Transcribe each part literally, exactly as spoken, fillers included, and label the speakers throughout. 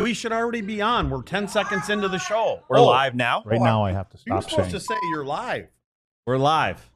Speaker 1: we should already be on. We're ten seconds into the show.
Speaker 2: We're oh, live now.
Speaker 3: Right oh, now, I have to stop.
Speaker 1: You're supposed
Speaker 3: saying.
Speaker 1: to say you're live.
Speaker 2: We're live.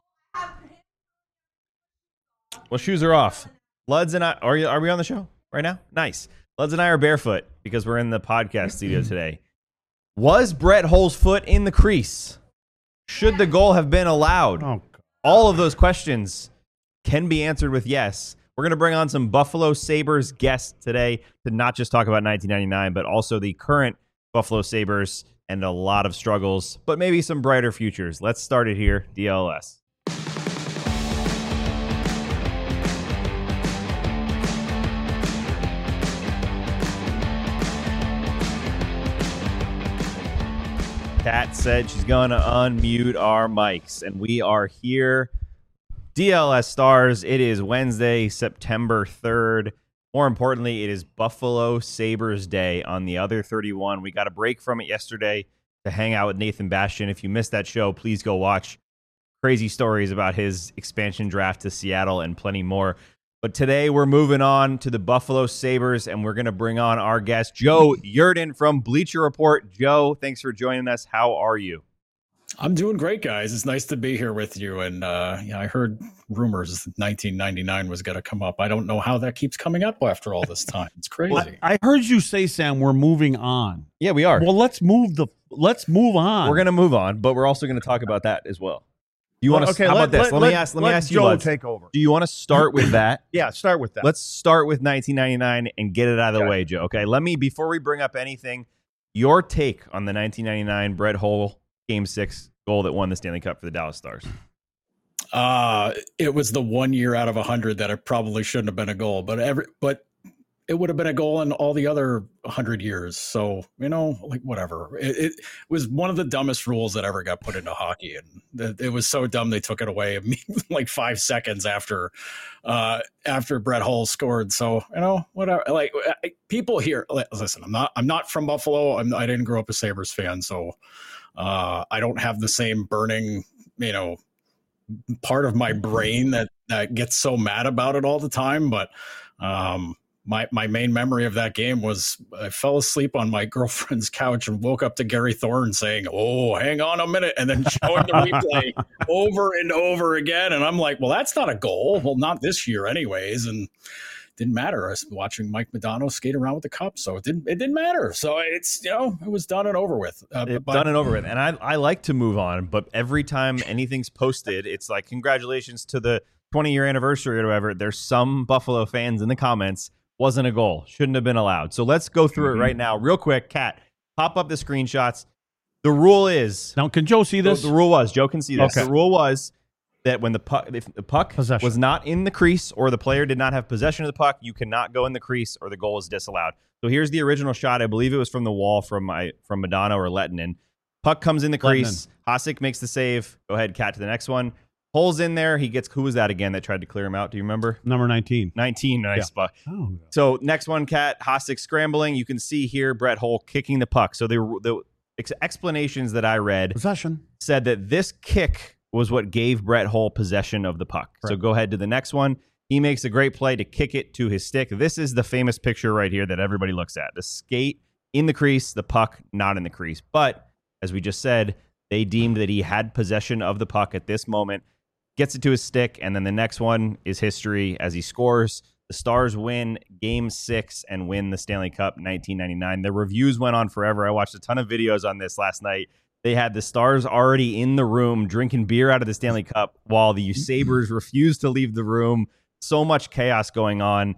Speaker 2: Well, shoes are off. Luds and I are. You, are we on the show right now? Nice. Luds and I are barefoot because we're in the podcast studio today. Was Brett Hull's foot in the crease? Should the goal have been allowed?
Speaker 1: Oh,
Speaker 2: all of those questions can be answered with yes. We're going to bring on some Buffalo Sabres guests today to not just talk about nineteen ninety-nine, but also the current Buffalo Sabres and a lot of struggles, but maybe some brighter futures. Let's start it here, D L S. Kat said she's going to unmute our mics, and we are here. D L S Stars, it is Wednesday, September third. More importantly, it is Buffalo Sabres Day on the other thirty-one. We got a break from it yesterday to hang out with Nathan Bastian. If you missed that show, please go watch. Crazy stories about his expansion draft to Seattle and plenty more. But today we're moving on to the Buffalo Sabres, and we're going to bring on our guest, Joe Yerdon from Bleacher Report. Joe, thanks for joining us. How are you?
Speaker 4: I'm doing great, guys. It's nice to be here with you. And uh, yeah, I heard rumors nineteen ninety-nine was going to come up. I don't know how that keeps coming up after all this time. It's crazy.
Speaker 1: Well, I heard you say, Sam, we're moving on.
Speaker 2: Yeah, we are.
Speaker 1: Well, let's move the. Let's move on.
Speaker 2: We're going to move on, but we're also going to talk about that as well. Do you
Speaker 1: well,
Speaker 2: want to?
Speaker 1: Okay,
Speaker 2: how
Speaker 1: let,
Speaker 2: about this?
Speaker 1: Let,
Speaker 2: let,
Speaker 1: let
Speaker 2: me ask. Let,
Speaker 1: let
Speaker 2: me ask
Speaker 1: Joe
Speaker 2: you. Let's
Speaker 1: take over.
Speaker 2: Do you want to start with that?
Speaker 1: Yeah, start with that.
Speaker 2: Let's start with nineteen ninety-nine and get it out of the
Speaker 1: okay.
Speaker 2: way, Joe. Okay. Let me before we bring up anything, your take on the nineteen ninety-nine Brett Hull Game Six goal that won the Stanley Cup for the Dallas Stars.
Speaker 4: Uh, it was the one year out of a hundred that it probably shouldn't have been a goal, but every but it would have been a goal in all the other hundred years. So, you know, like whatever. It, it was one of the dumbest rules that ever got put into hockey. And it, it was so dumb they took it away like five seconds after uh, after Brett Hull scored. So, you know, whatever. Like people here, listen, I'm not I'm not from Buffalo. I'm, I didn't grow up a Sabres fan. So uh, I don't have the same burning, you know, part of my brain that, that gets so mad about it all the time. But um, My my main memory of that game was I fell asleep on my girlfriend's couch and woke up to Gary Thorne saying, "Oh, hang on a minute," and then showing the replay over and over again. And I'm like, well, that's not a goal. Well, not this year anyways. And it didn't matter. I was watching Mike Modano skate around with the cup. So it didn't it didn't matter. So it's, you know, it was done and over with. Uh,
Speaker 2: it's
Speaker 4: but,
Speaker 2: done and over with. And I, I like to move on, but every time anything's posted, it's like, congratulations to the twenty-year anniversary or whatever. There's some Buffalo fans in the comments. Wasn't a goal. Shouldn't have been allowed. So let's go through mm-hmm. it right now. Real quick, Kat, pop up the screenshots. The rule is...
Speaker 1: Now, can Joe see this?
Speaker 2: The, the rule was, Joe can see this.
Speaker 1: Okay.
Speaker 2: The rule was that when the puck, if the puck
Speaker 1: possession.
Speaker 2: was not in the crease or the player did not have possession of the puck, you cannot go in the crease or the goal is disallowed. So here's the original shot. I believe it was from the wall from my from Modano or Lettinen. Puck comes in the crease. Hasek makes the save. Go ahead, Kat, to the next one. Hole's in there. He gets, who was that again that tried to clear him out? Do you remember?
Speaker 1: Number nineteen.
Speaker 2: nineteen, nice
Speaker 1: yeah.
Speaker 2: spot.
Speaker 1: Oh.
Speaker 2: So next one, Kat, Hasek scrambling. You can see here Brett Hull kicking the puck. So the, the ex- explanations that I read
Speaker 1: possession
Speaker 2: said that this kick was what gave Brett Hull possession of the puck. Right. So go ahead to the next one. He makes a great play to kick it to his stick. This is the famous picture right here that everybody looks at. The skate in the crease, the puck not in the crease. But as we just said, they deemed that he had possession of the puck at this moment. Gets it to his stick, and then the next one is history as he scores. The Stars win Game six and win the Stanley Cup nineteen ninety-nine. The reviews went on forever. I watched a ton of videos on this last night. They had the Stars already in the room drinking beer out of the Stanley Cup while the Sabres refused to leave the room. So much chaos going on.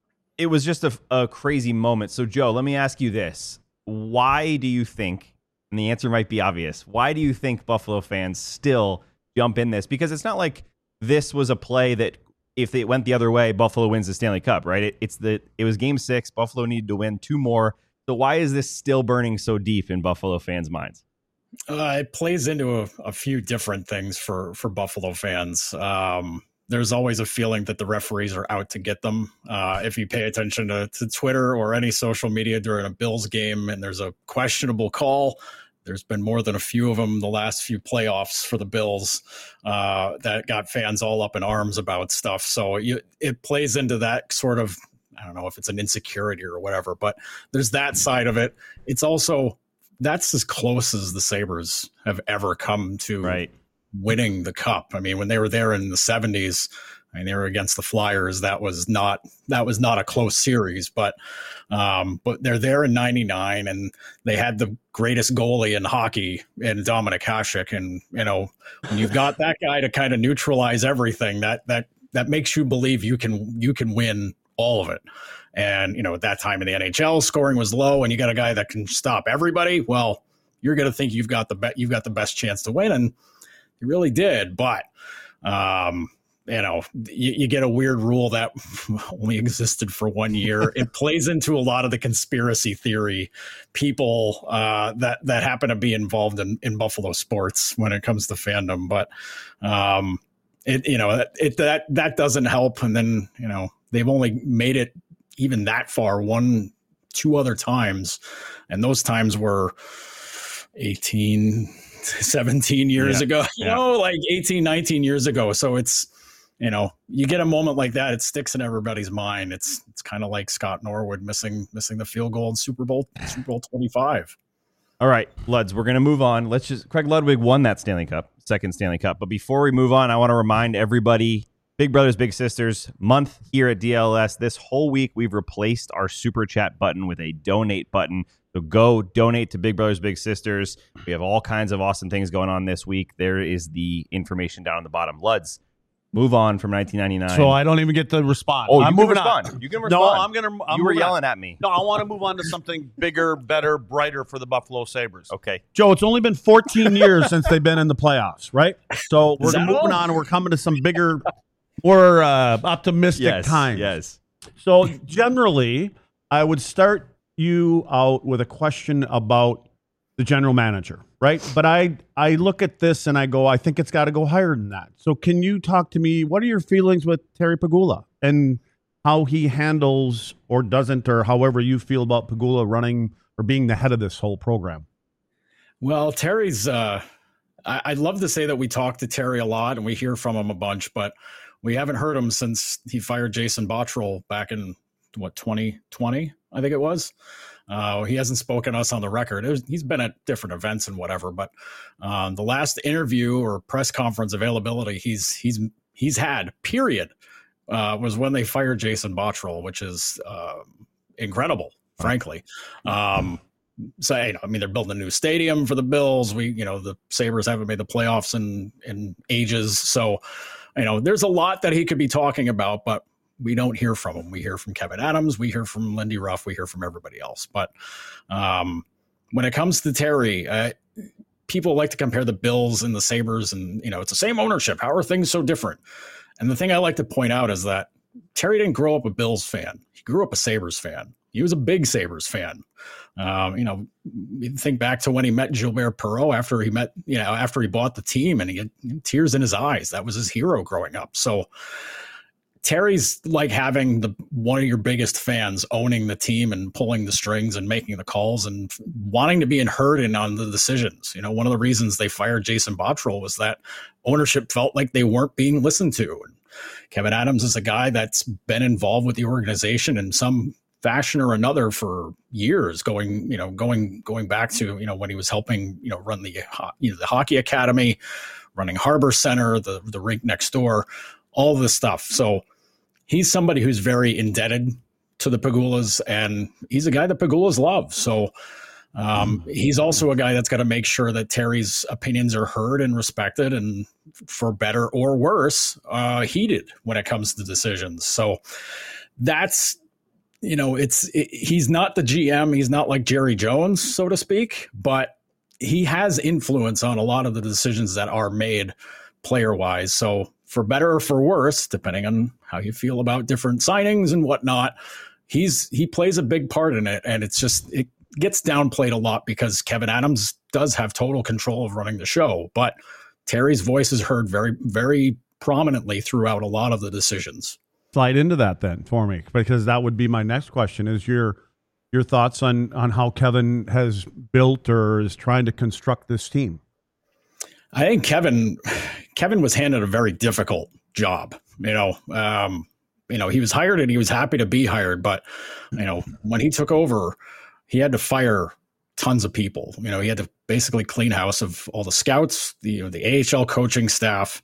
Speaker 2: It was just a, a crazy moment. So, Joe, let me ask you this. Why do you think, and the answer might be obvious, why do you think Buffalo fans still jump in this? Because it's not like this was a play that if it went the other way, Buffalo wins the Stanley Cup, right? It, it's the it was game six. Buffalo needed to win two more. So why is this still burning so deep in Buffalo fans' minds?
Speaker 4: Uh, it plays into a, a few different things for, for Buffalo fans. Um, there's always a feeling that the referees are out to get them. Uh, if you pay attention to, to Twitter or any social media during a Bills game and there's a questionable call, there's been more than a few of them the last few playoffs for the Bills uh, that got fans all up in arms about stuff. So you, it plays into that sort of I don't know if it's an insecurity or whatever, but there's that side of it. It's also, that's as close as the Sabres have ever come to
Speaker 2: right.
Speaker 4: winning the cup. I mean, when they were there in the seventies, I mean, they were against the Flyers. That was not, that was not a close series, but, um, but they're there in ninety-nine, and they had the greatest goalie in hockey in Dominik Hasek. And, you know, when you've got that guy to kind of neutralize everything, that, that, that makes you believe you can, you can win all of it. And, you know, at that time in the N H L, scoring was low, and you got a guy that can stop everybody. Well, you're going to think you've got the bet, you've got the best chance to win. And you really did. But, um, you know, you, you get a weird rule that only existed for one year. It plays into a lot of the conspiracy theory people uh, that, that happen to be involved in, in Buffalo sports when it comes to fandom. But, um, it, you know, it, that, that doesn't help. And then, you know, they've only made it even that far one, two other times. And those times were eighteen, seventeen years yeah. ago, you yeah. know, like eighteen, nineteen years ago. So it's, you know, you get a moment like that, it sticks in everybody's mind. It's it's kind of like Scott Norwood missing missing the field goal in Super Bowl Super Bowl twenty-five.
Speaker 2: All right, Luds, we're going to move on. Let's just Craig Ludwig won that Stanley Cup, second Stanley Cup. But before we move on, I want to remind everybody, Big Brothers Big Sisters month here at D L S. This whole week we've replaced our super chat button with a donate button. So go donate to Big Brothers Big Sisters. We have all kinds of awesome things going on this week. There is the information down on the bottom. Luds, move on from nineteen ninety-nine.
Speaker 1: So I don't even get to respond.
Speaker 2: Oh,
Speaker 1: I'm
Speaker 2: you
Speaker 1: moving
Speaker 2: can respond.
Speaker 1: on.
Speaker 2: You can respond.
Speaker 1: No, I'm gonna. I'm
Speaker 2: you were
Speaker 1: yelling
Speaker 2: on. at me.
Speaker 1: No, I want to move on to something bigger, better, brighter for the Buffalo Sabres.
Speaker 2: Okay,
Speaker 1: Joe. It's only been fourteen years since they've been in the playoffs, right? So we're moving all? on. We're coming to some bigger, more uh, optimistic
Speaker 2: yes,
Speaker 1: times.
Speaker 2: Yes.
Speaker 1: So generally, I would start you out with a question about the general manager, right? But I I look at this and I go, I think it's got to go higher than that. So can you talk to me? What are your feelings with Terry Pegula and how he handles or doesn't, or however you feel about Pegula running or being the head of this whole program?
Speaker 4: Well, Terry's, uh, I, I'd love to say that we talk to Terry a lot and we hear from him a bunch, but we haven't heard him since he fired Jason Botterill back in, what, twenty twenty, I think it was. Uh, he hasn't spoken to us on the record. It was, he's been at different events and whatever, but um, the last interview or press conference availability he's he's he's had, period, uh, was when they fired Jason Botterill, which is uh, incredible, frankly. Um, so you know, I mean, they're building a new stadium for the Bills. We, you know, the Sabres haven't made the playoffs in in ages, so you know, there's a lot that he could be talking about, but we don't hear from him. We hear from Kevin Adams. We hear from Lindy Ruff. We hear from everybody else. But um, when it comes to Terry, uh, people like to compare the Bills and the Sabres, and, you know, it's the same ownership. How are things so different? And the thing I like to point out is that Terry didn't grow up a Bills fan. He grew up a Sabres fan. He was a big Sabres fan. Um, you know, think back to when he met Gilbert Perreault after he met, you know, after he bought the team, and he had tears in his eyes. That was his hero growing up. So Terry's like having the one of your biggest fans owning the team and pulling the strings and making the calls and wanting to be heard in on the decisions. You know, one of the reasons they fired Jason Botterill was that ownership felt like they weren't being listened to. And Kevin Adams is a guy that's been involved with the organization in some fashion or another for years, going, you know, going, going back to, you know, when he was helping, you know, run the, you know, the hockey academy, running Harbor Center, the, the rink next door, all this stuff. So he's somebody who's very indebted to the Pegulas, and he's a guy that Pegulas love. So um, he's also a guy that's got to make sure that Terry's opinions are heard and respected, and for better or worse, uh, heeded when it comes to decisions. So that's, you know, it's, it, he's not the G M. He's not like Jerry Jones, so to speak, but he has influence on a lot of the decisions that are made player wise. So for better or for worse, depending on how you feel about different signings and whatnot, he's, he plays a big part in it. And it's just, it gets downplayed a lot because Kevin Adams does have total control of running the show, but Terry's voice is heard very, very prominently throughout a lot of the decisions.
Speaker 1: Slide into that then for me, because that would be my next question, is your your thoughts on on how Kevin has built or is trying to construct this team.
Speaker 4: I think Kevin Kevin was handed a very difficult job. You know, um, you know, he was hired and he was happy to be hired. But, you know, when he took over, he had to fire tons of people. You know, he had to basically clean house of all the scouts, the, you know, the A H L coaching staff,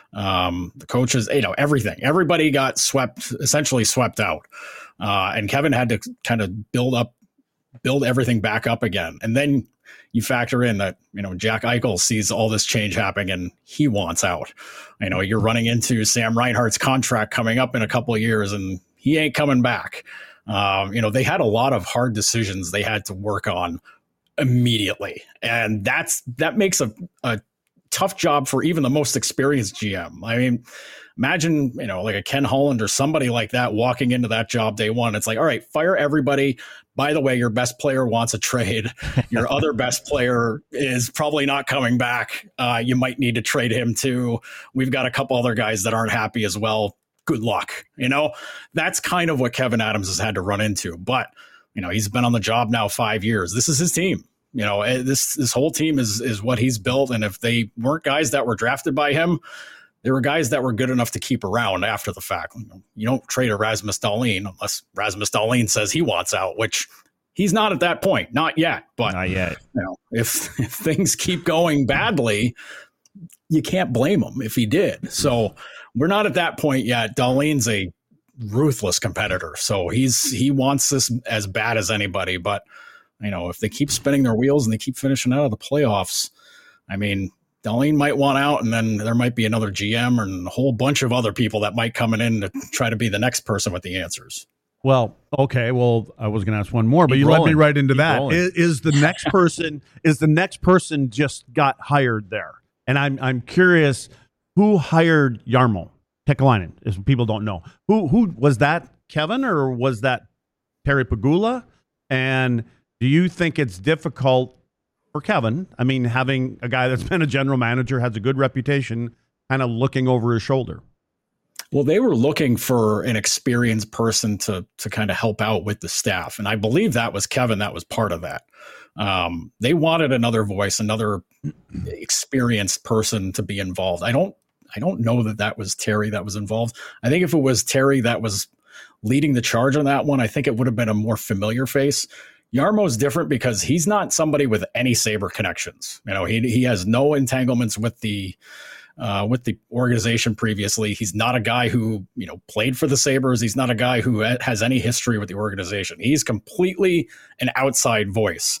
Speaker 4: um, the coaches, you know, everything. Everybody got swept, essentially swept out. Uh, and Kevin had to kind of build up, build everything back up again. And then you factor in that, you know, Jack Eichel sees all this change happening and he wants out. You know, you're running into Sam Reinhart's contract coming up in a couple of years and he ain't coming back. Um, you know, they had a lot of hard decisions they had to work on immediately. And that's, that makes a, a tough job for even the most experienced G M. I mean, imagine, you know, like a Ken Holland or somebody like that walking into that job day one. It's like, all right, fire everybody. By the way, your best player wants a trade. Your other best player is probably not coming back. Uh, you might need to trade him too. We've got a couple other guys that aren't happy as well. Good luck. You know, that's kind of what Kevin Adams has had to run into. But, you know, he's been on the job now five years. This is his team. You know, this this whole team is is what he's built. And if they weren't guys that were drafted by him, there were guys that were good enough to keep around after the fact. You don't trade a Rasmus Dahlin unless Rasmus Dahlin says he wants out, which he's not at that point. Not yet. But
Speaker 2: not yet.
Speaker 4: You know, if, if things keep going badly, you can't blame him if he did. So we're not at that point yet. Dahlin's a ruthless competitor. So he's he wants this as bad as anybody. But, you know, if they keep spinning their wheels and they keep finishing out of the playoffs, I mean, Dahlin might want out, and then there might be another G M and a whole bunch of other people that might come in to try to be the next person with the answers.
Speaker 1: Well, okay. Well, I was going to ask one more, but
Speaker 2: Keep
Speaker 1: you
Speaker 2: rolling.
Speaker 1: led me right into
Speaker 2: Keep
Speaker 1: that.
Speaker 2: rolling.
Speaker 1: Is, is the next person is the next person just got hired there? And I'm I'm curious who hired Jarmo Kekalainen. If people don't know, who who was that? Kevin or was that Terry Pegula? And do you think it's difficult for Kevin? I mean, having a guy that's been a general manager, has a good reputation, kind of looking over his shoulder.
Speaker 4: Well, they were looking for an experienced person to to kind of help out with the staff. And I believe that was Kevin that was part of that. Um, they wanted another voice, another experienced person to be involved. I don't I don't know that that was Terry that was involved. I think if it was Terry that was leading the charge on that one, I think it would have been a more familiar face. Jarmo's different because he's not somebody with any Sabre connections. You know, he he has no entanglements with the uh, with the organization previously. He's not a guy who, you know, played for the Sabres. He's not a guy who has any history with the organization. He's completely an outside voice,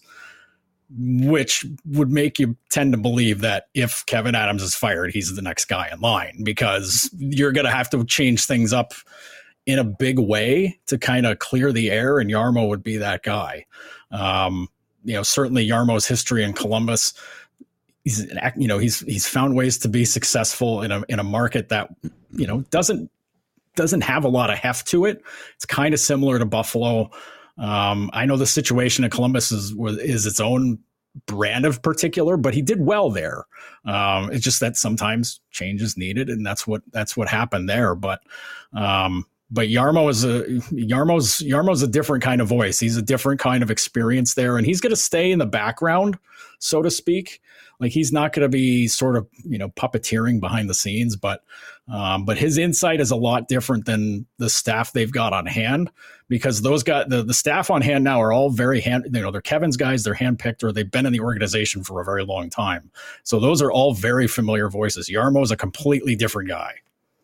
Speaker 4: which would make you tend to believe that if Kevin Adams is fired, he's the next guy in line, because you're going to have to change things up in a big way to kind of clear the air, and Jarmo would be that guy. Um, you know, certainly Jarmo's history in Columbus, he's an, you know, he's he's found ways to be successful in a in a market that, you know, doesn't doesn't have a lot of heft to it. It's kind of similar to Buffalo. Um, I know the situation in Columbus is is its own brand of particular, but he did well there. Um, it's just that sometimes change is needed, and that's what that's what happened there. But um, But Jarmo is a Jarmo's Jarmo's a different kind of voice. He's a different kind of experience there, and he's going to stay in the background, so to speak. Like, he's not going to be sort of, you know, puppeteering behind the scenes, but um, but his insight is a lot different than the staff they've got on hand, because those guys, the, the staff on hand now are all very hand, you know, they're Kevin's guys, they're handpicked, or they've been in the organization for a very long time. So those are all very familiar voices. Jarmo's a completely different guy.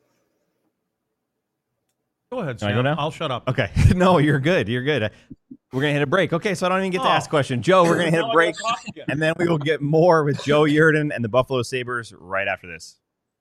Speaker 1: Go ahead,
Speaker 2: Can I
Speaker 1: Sam.
Speaker 2: go now?
Speaker 1: I'll shut up.
Speaker 2: Okay. No, you're good. You're good. We're going to hit a break. Okay, so I don't even get to
Speaker 1: Oh.
Speaker 2: ask a question. Joe, we're going to hit
Speaker 1: Now
Speaker 2: a
Speaker 1: I
Speaker 2: break,
Speaker 1: gotta talk again.
Speaker 2: and then we will get more with Joe Yerdon and the Buffalo Sabres right after this.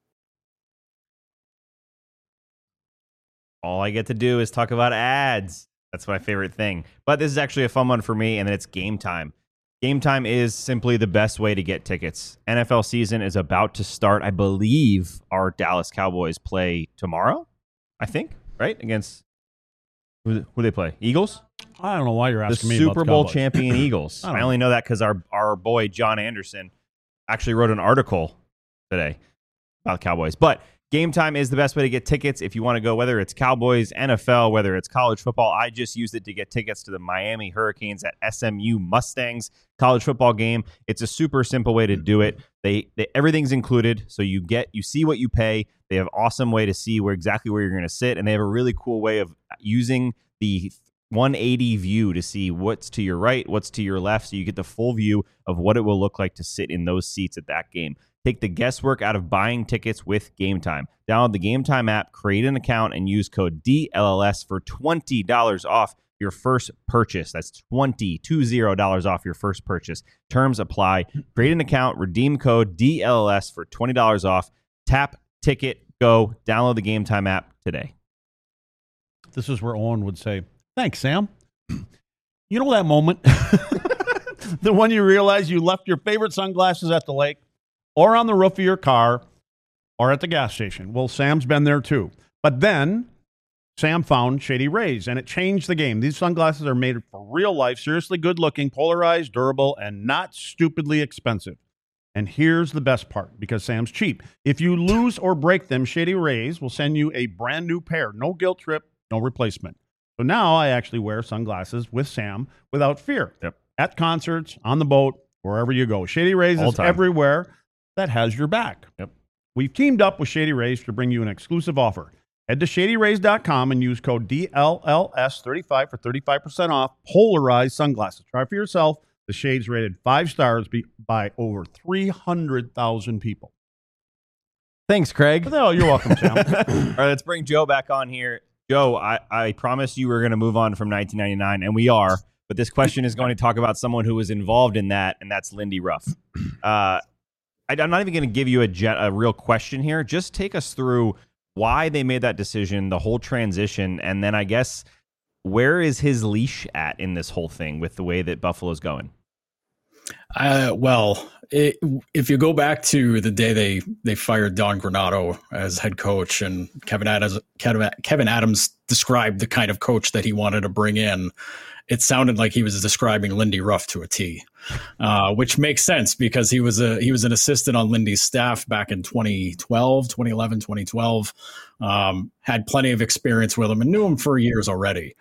Speaker 2: All I get to do is talk about ads. That's my favorite thing. But this is actually a fun one for me, and then it's Game Time. Game Time is simply the best way to get tickets. N F L season is about to start. I believe our Dallas Cowboys play tomorrow, I think, right? Against, who, who they play? Eagles?
Speaker 1: I don't know why you're
Speaker 2: The
Speaker 1: asking me about
Speaker 2: Super
Speaker 1: the
Speaker 2: Bowl
Speaker 1: Cowboys.
Speaker 2: champion Eagles.
Speaker 1: I
Speaker 2: I,
Speaker 1: don't
Speaker 2: only know that because our, our boy John Anderson actually wrote an article today about Cowboys. But Game Time is the best way to get tickets if you want to go, whether it's Cowboys, N F L, whether it's college football. I just used it to get tickets to the Miami Hurricanes at S M U Mustangs college football game. It's a super simple way to do it. They, they everything's included, so you get you see what you pay. They have an awesome way to see where exactly where you're going to sit, and they have a really cool way of using the one eighty view to see what's to your right, what's to your left, so you get the full view of what it will look like to sit in those seats at that game. Take the guesswork out of buying tickets with Game Time. Download the Game Time app, create an account, and use code D L L S for twenty dollars off your first purchase. That's twenty, two zero dollars off your first purchase. Terms apply. Create an account, redeem code D L L S for twenty dollars off. Tap, ticket, go. Download the Game Time app today.
Speaker 1: This is where Owen would say, thanks, Sam. You know that moment? The one you realize you left your favorite sunglasses at the lake, or on the roof of your car, or at the gas station. Well, Sam's been there too. But then Sam found Shady Rays, and it changed the game. These sunglasses are made for real life, seriously good-looking, polarized, durable, and not stupidly expensive. And here's the best part, because Sam's cheap. If you lose or break them, Shady Rays will send you a brand new pair. No guilt trip, no replacement. So now I actually wear sunglasses with Sam without fear.
Speaker 2: Yep.
Speaker 1: At concerts, on the boat, wherever you go. Shady Rays
Speaker 2: All
Speaker 1: is
Speaker 2: time.
Speaker 1: everywhere that has your back.
Speaker 2: Yep.
Speaker 1: We've teamed up with Shady Rays to bring you an exclusive offer. Head to shady rays dot com and use code D L L S thirty-five for thirty-five percent off polarized sunglasses. Try for yourself. The shades rated five stars by over three hundred thousand people.
Speaker 2: Thanks, Craig.
Speaker 1: Oh, you're welcome, Sam.
Speaker 2: All right, let's bring Joe back on here. Joe, I, I promised you were going to move on from nineteen ninety-nine, and we are. But this question is going to talk about someone who was involved in that, and that's Lindy Ruff. Uh, I, I'm not even going to give you a, gen, a real question here. Just take us through why they made that decision, the whole transition, and then I guess where is his leash at in this whole thing with the way that Buffalo's going?
Speaker 4: Uh, well, it, if you go back to the day they, they fired Don Granato as head coach, and Kevin Adams, Kevin, Kevin Adams described the kind of coach that he wanted to bring in, it sounded like he was describing Lindy Ruff to a T, uh, which makes sense because he was a he was an assistant on Lindy's staff back in twenty twelve, twenty eleven, twenty twelve. Um, had plenty of experience with him and knew him for years already.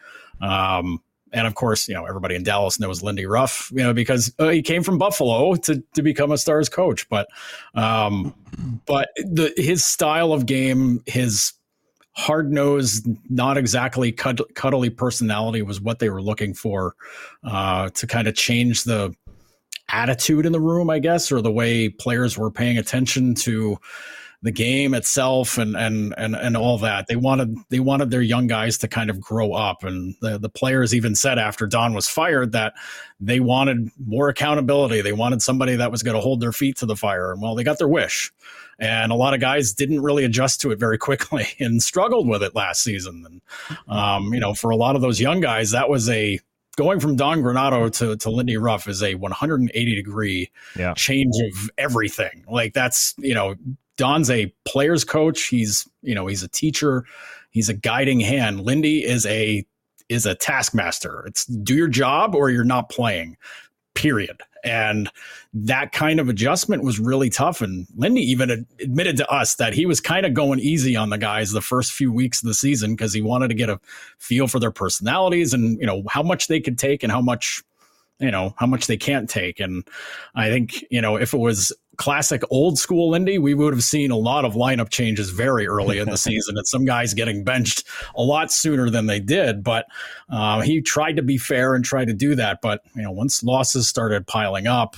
Speaker 4: Um, and of course, you know, everybody in Dallas knows Lindy Ruff, you know, because uh, he came from Buffalo to to become a Stars coach. But um, but the his style of game, his hard-nosed, not exactly cud- cuddly personality was what they were looking for uh, to kind of change the attitude in the room, I guess, or the way players were paying attention to the game itself and and and and all that. They wanted they wanted their young guys to kind of grow up, and the the players even said after Don was fired that they wanted more accountability. They wanted somebody that was going to hold their feet to the fire, and well, they got their wish. And a lot of guys didn't really adjust to it very quickly and struggled with it last season. And, um, you know, for a lot of those young guys, that was a going from Don Granato to, to Lindy Ruff is a one hundred eighty degree
Speaker 2: yeah.
Speaker 4: change of everything. Like that's, you know, Don's a player's coach. He's, you know, he's a teacher. He's a guiding hand. Lindy is a, is a taskmaster. It's do your job or you're not playing, period. And that kind of adjustment was really tough. And Lindy even admitted to us that he was kind of going easy on the guys the first few weeks of the season because he wanted to get a feel for their personalities and, you know, how much they could take and how much, you know, how much they can't take. And I think, you know, if it was classic old school Lindy, we would have seen a lot of lineup changes very early in the season and some guys getting benched a lot sooner than they did. But uh, he tried to be fair and try to do that. But, you know, once losses started piling up,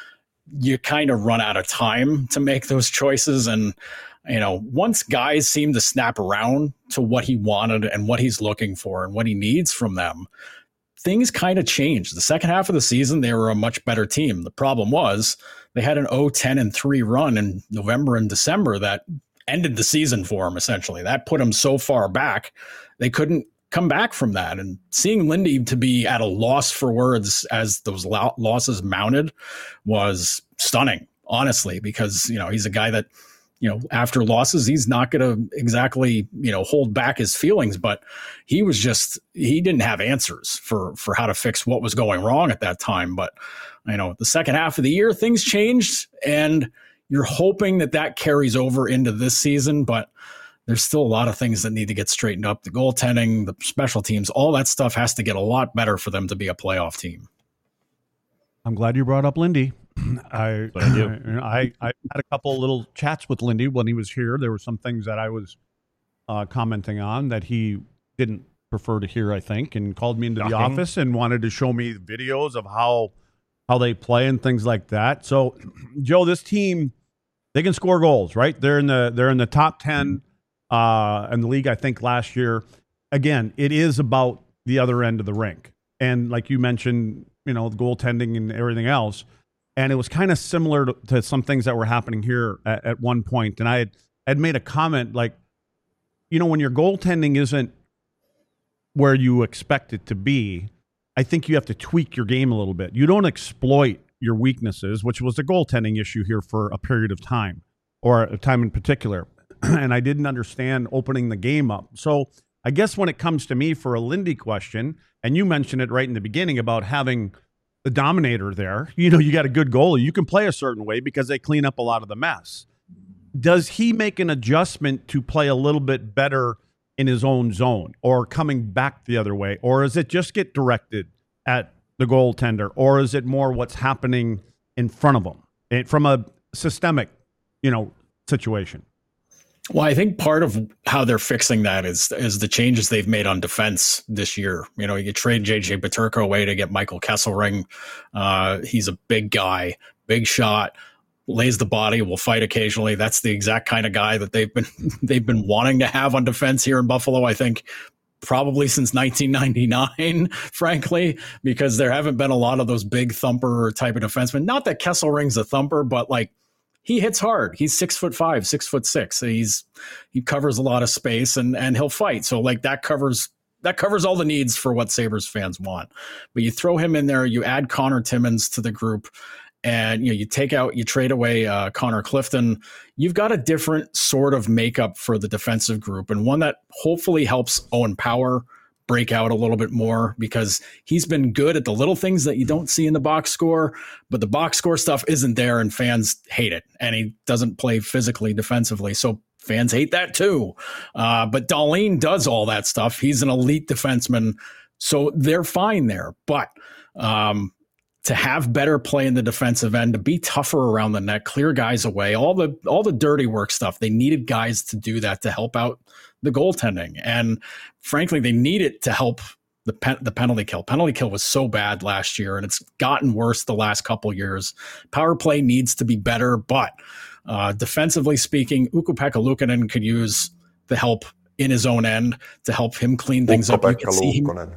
Speaker 4: you kind of run out of time to make those choices. And, you know, once guys seem to snap around to what he wanted and what he's looking for and what he needs from them, things kind of changed. The second half of the season, they were a much better team. The problem was they had an oh ten and three run in November and December that ended the season for them, essentially. That put them so far back, they couldn't come back from that. And seeing Lindy to be at a loss for words as those lo- losses mounted was stunning, honestly, because, you know, he's a guy that, you know, after losses, he's not going to exactly, you know, hold back his feelings, but he was just, he didn't have answers for, for how to fix what was going wrong at that time. But, you know, the second half of the year, things changed and you're hoping that that carries over into this season, but there's still a lot of things that need to get straightened up. The goaltending, the special teams, all that stuff has to get a lot better for them to be a playoff team.
Speaker 1: I'm glad you brought up Lindy. I,
Speaker 2: What I do.
Speaker 1: I, I had a couple little chats with Lindy when he was here. There were some things that I was uh, commenting on that he didn't prefer to hear, I think, and called me into
Speaker 2: Shocking.
Speaker 1: the office and wanted to show me videos of how how they play and things like that. So, Joe, this team, they can score goals, right? They're in the they're in the top ten uh, in the league, I think, last year. Again, it is about the other end of the rink, and like you mentioned, you know, the goaltending and everything else. And it was kind of similar to, to some things that were happening here at, at one point. And I had, had made a comment like, you know, when your goaltending isn't where you expect it to be, I think you have to tweak your game a little bit. You don't exploit your weaknesses, which was a goaltending issue here for a period of time, or a time in particular. And I didn't understand opening the game up. So I guess when it comes to me for a Lindy question, and you mentioned it right in the beginning about having the dominator there, you know, you got a good goalie, you can play a certain way because they clean up a lot of the mess. Does he make an adjustment to play a little bit better in his own zone, or coming back the other way? Or is it just get directed at the goaltender? Or is it more what's happening in front of him it, from a systemic, you know, situation?
Speaker 4: Well, I think part of how they're fixing that is is the changes they've made on defense this year. You know, you trade J J Peterka away to get Michael Kesselring. Uh, he's a big guy, big shot, lays the body, will fight occasionally. That's the exact kind of guy that they've been they've been wanting to have on defense here in Buffalo, I think, probably since nineteen ninety-nine, frankly, because there haven't been a lot of those big thumper type of defensemen. Not that Kesselring's a thumper, but like, he hits hard. He's six foot five, six foot six. He's he covers a lot of space, and and he'll fight. So like that covers that covers all the needs for what Sabres fans want. But you throw him in there, you add Connor Timmins to the group, and you know you take out, you trade away uh, Connor Clifton. You've got a different sort of makeup for the defensive group, and one that hopefully helps Owen Power break out a little bit more, because he's been good at the little things that you don't see in the box score, but the box score stuff isn't there and fans hate it. And he doesn't play physically defensively, so fans hate that too. Uh, but Dahlin does all that stuff. He's an elite defenseman, so they're fine there. But um, to have better play in the defensive end, to be tougher around the net, clear guys away, all the all the dirty work stuff, they needed guys to do that to help out the goaltending. And frankly, they need it to help the pen, the penalty kill. Penalty kill was so bad last year, and it's gotten worse the last couple years. Power play needs to be better, but uh, defensively speaking, Ukko-Pekka Luukkonen could use the help in his own end to help him clean things up. You can see him,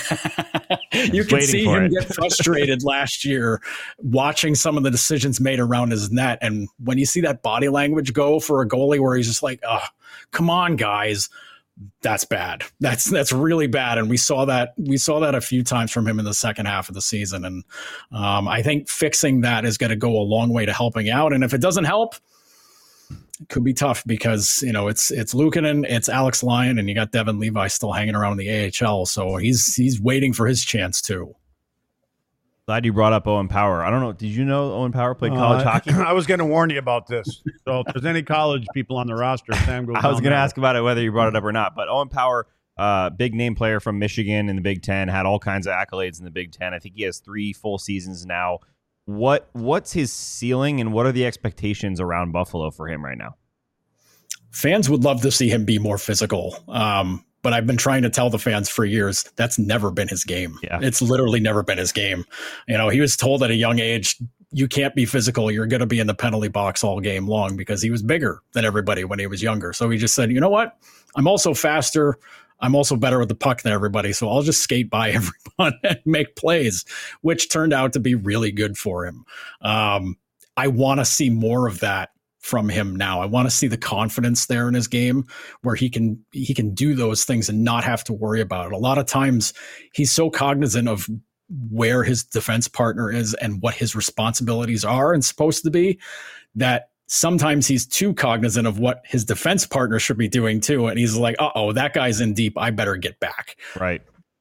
Speaker 4: you can see him it. get frustrated last year watching some of the decisions made around his net. And when you see that body language go for a goalie where he's just like, oh, come on, guys, that's bad. That's that's really bad. And we saw that we saw that a few times from him in the second half of the season. And um, I think fixing that is going to go a long way to helping out. And if it doesn't help, it could be tough, because, you know, it's it's Luukkonen, it's Alex Lyon, and you got Devin Levi still hanging around in the A H L. So he's he's waiting for his chance too.
Speaker 2: Glad you brought up Owen Power. I don't know. Did you know Owen Power played college
Speaker 1: uh,
Speaker 2: hockey?
Speaker 1: I was going to warn you about this. So if there's any college people on the roster, Sam goes.
Speaker 2: I was going to ask about it, whether you brought it up or not. But Owen Power, uh, big name player from Michigan in the Big Ten, had all kinds of accolades in the Big Ten. I think he has three full seasons now. What What's his ceiling, and what are the expectations around Buffalo for him right now?
Speaker 4: Fans would love to see him be more physical. Um, But I've been trying to tell the fans for years, that's never been his game.
Speaker 2: Yeah.
Speaker 4: It's literally never been his game. You know, he was told at a young age, you can't be physical. You're going to be in the penalty box all game long, because he was bigger than everybody when he was younger. So he just said, you know what? I'm also faster. I'm also better with the puck than everybody. So I'll just skate by everyone and make plays, which turned out to be really good for him. Um, I want to see more of that from him now. I want to see the confidence there in his game where he can he can do those things and not have to worry about it. A lot of times he's so cognizant of where his defense partner is and what his responsibilities are and supposed to be, that sometimes he's too cognizant of what his defense partner should be doing too. And he's like, uh-oh, that guy's in deep. I better get back.
Speaker 2: Right.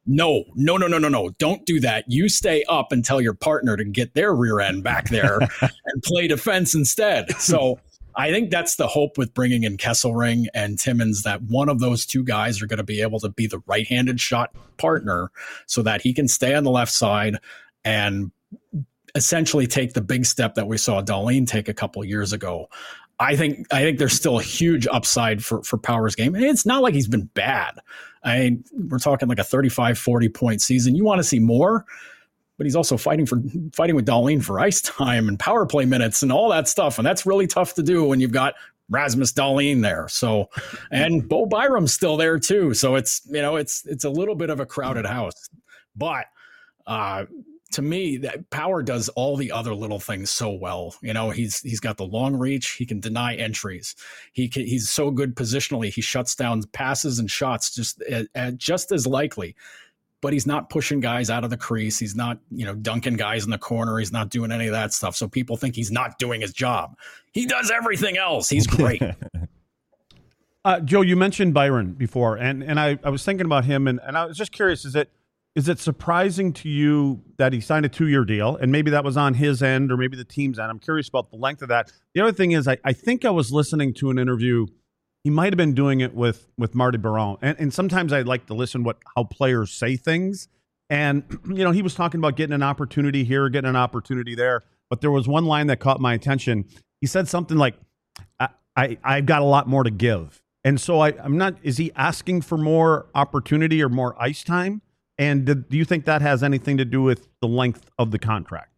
Speaker 4: No, no, no, no, no, no. Don't do that. You stay up and tell your partner to get their rear end back there and play defense instead. So I think that's the hope with bringing in Kesselring and Timmins, that one of those two guys are going to be able to be the right-handed shot partner so that he can stay on the left side and essentially take the big step that we saw Dahlin take a couple of years ago. I think I think there's still a huge upside for, for Power's game. And it's not like he's been bad. I mean, we're talking like a thirty-five, forty point season. You want to see more, but he's also fighting for fighting with Dahlin for ice time and power play minutes and all that stuff. And that's really tough to do when you've got Rasmus Dahlin there. So, and Bo Byram's still there too. So it's, you know, it's it's a little bit of a crowded house. But uh to me, that Power does all the other little things so well. You know, he's he's got the long reach. He can deny entries. He can, he's so good positionally. He shuts down passes and shots just uh, just as likely. But he's not pushing guys out of the crease. He's not, you know, dunking guys in the corner. He's not doing any of that stuff. So people think he's not doing his job. He does everything else. He's great.
Speaker 1: uh, Joe, you mentioned Byron before, and and I, I was thinking about him, and, and I was just curious, is it Is it surprising to you that he signed a two-year deal, and maybe that was on his end or maybe the team's end? I'm curious about the length of that. The other thing is, I, I think I was listening to an interview. He might have been doing it with with Marty Biron, and, and sometimes I like to listen what how players say things. And you know, he was talking about getting an opportunity here, getting an opportunity there. But there was one line that caught my attention. He said something like, I, I, "I've got a lot more to give," and so I, I'm not. Is he asking for more opportunity or more ice time? And did, do you think that has anything to do with the length of the contract?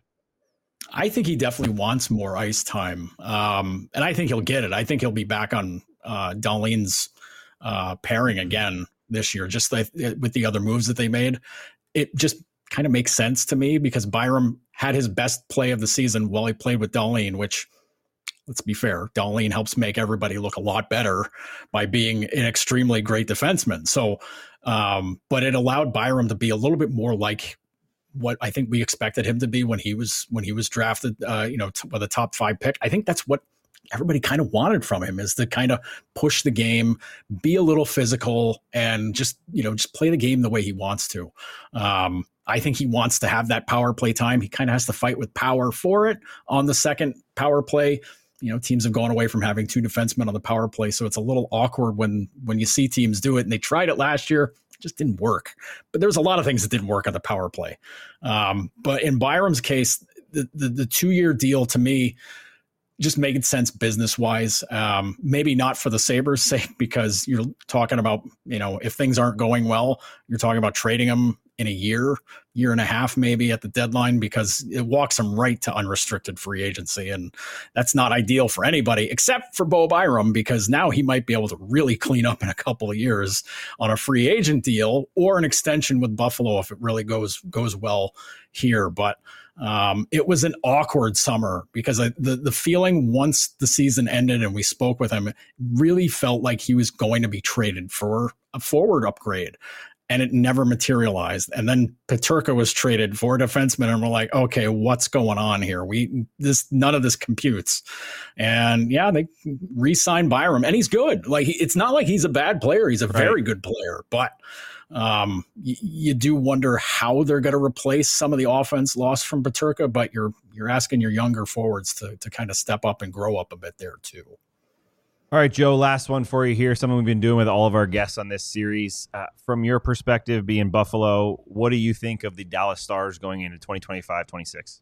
Speaker 4: I think he definitely wants more ice time. Um, and I think he'll get it. I think he'll be back on uh, Dahlin's uh, pairing again this year, just like, with the other moves that they made. It just kind of makes sense to me because Byram had his best play of the season while he played with Dahlin, which, let's be fair, Dahlin helps make everybody look a lot better by being an extremely great defenseman. So, um, but it allowed Byram to be a little bit more like what I think we expected him to be when he was when he was drafted, uh, you know, t- with a top five pick. I think that's what everybody kind of wanted from him, is to kind of push the game, be a little physical, and just, you know, just play the game the way he wants to. Um, I think he wants to have that power play time. He kind of has to fight with Power for it on the second power play. You know, teams have gone away from having two defensemen on the power play, so it's a little awkward when when you see teams do it. And they tried it last year, it just didn't work. But there's a lot of things that didn't work on the power play. Um, but in Byram's case, the the, the two year deal to me just made sense business wise. Um, maybe not for the Sabres' sake, because you're talking about, you know, if things aren't going well, you're talking about trading them in a year, year and a half, maybe at the deadline, because it walks them right to unrestricted free agency. And that's not ideal for anybody except for Bo Byram, because now he might be able to really clean up in a couple of years on a free agent deal or an extension with Buffalo if it really goes, goes well here. But um, it was an awkward summer because I, the, the feeling once the season ended and we spoke with him, it really felt like he was going to be traded for a forward upgrade. And it never materialized. And then Peterka was traded for a defenseman, and we're like, okay, what's going on here? We this none of this computes. And yeah, they re-signed Byram, and he's good. Like, it's not like he's a bad player; he's a right. very good player. But um, y- you do wonder how they're going to replace some of the offense lost from Peterka. But you're you're asking your younger forwards to to kind of step up and grow up a bit there too.
Speaker 2: All right, Joe, last one for you here. Something we've been doing with all of our guests on this series. Uh, from your perspective, being Buffalo, what do you think of the Dallas Stars going into twenty twenty-five twenty-six?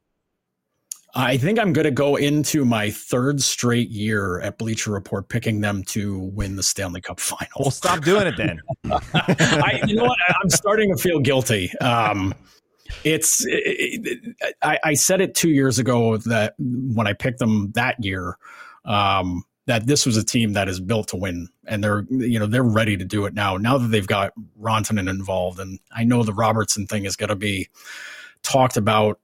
Speaker 4: I think I'm going to go into my third straight year at Bleacher Report picking them to win the Stanley Cup final.
Speaker 2: Well, stop doing it then.
Speaker 4: I, you know what? I'm starting to feel guilty. Um, it's it, it, I, I said it two years ago that when I picked them that year, um, that this was a team that is built to win, and they're, you know, they're ready to do it now, now that they've got Rantanen involved. And I know the Robertson thing is going to be talked about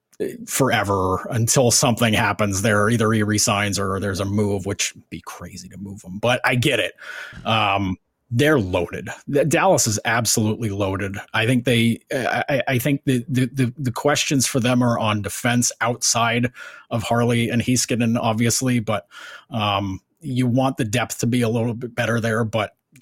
Speaker 4: forever until something happens there. Either he resigns or there's a move, which would be crazy to move him, but I get it. Um, they're loaded. Dallas is absolutely loaded. I think they, I, I think the, the, the, the questions for them are on defense outside of Harley and Heiskanen, obviously, but um, you want the depth to be a little bit better there. But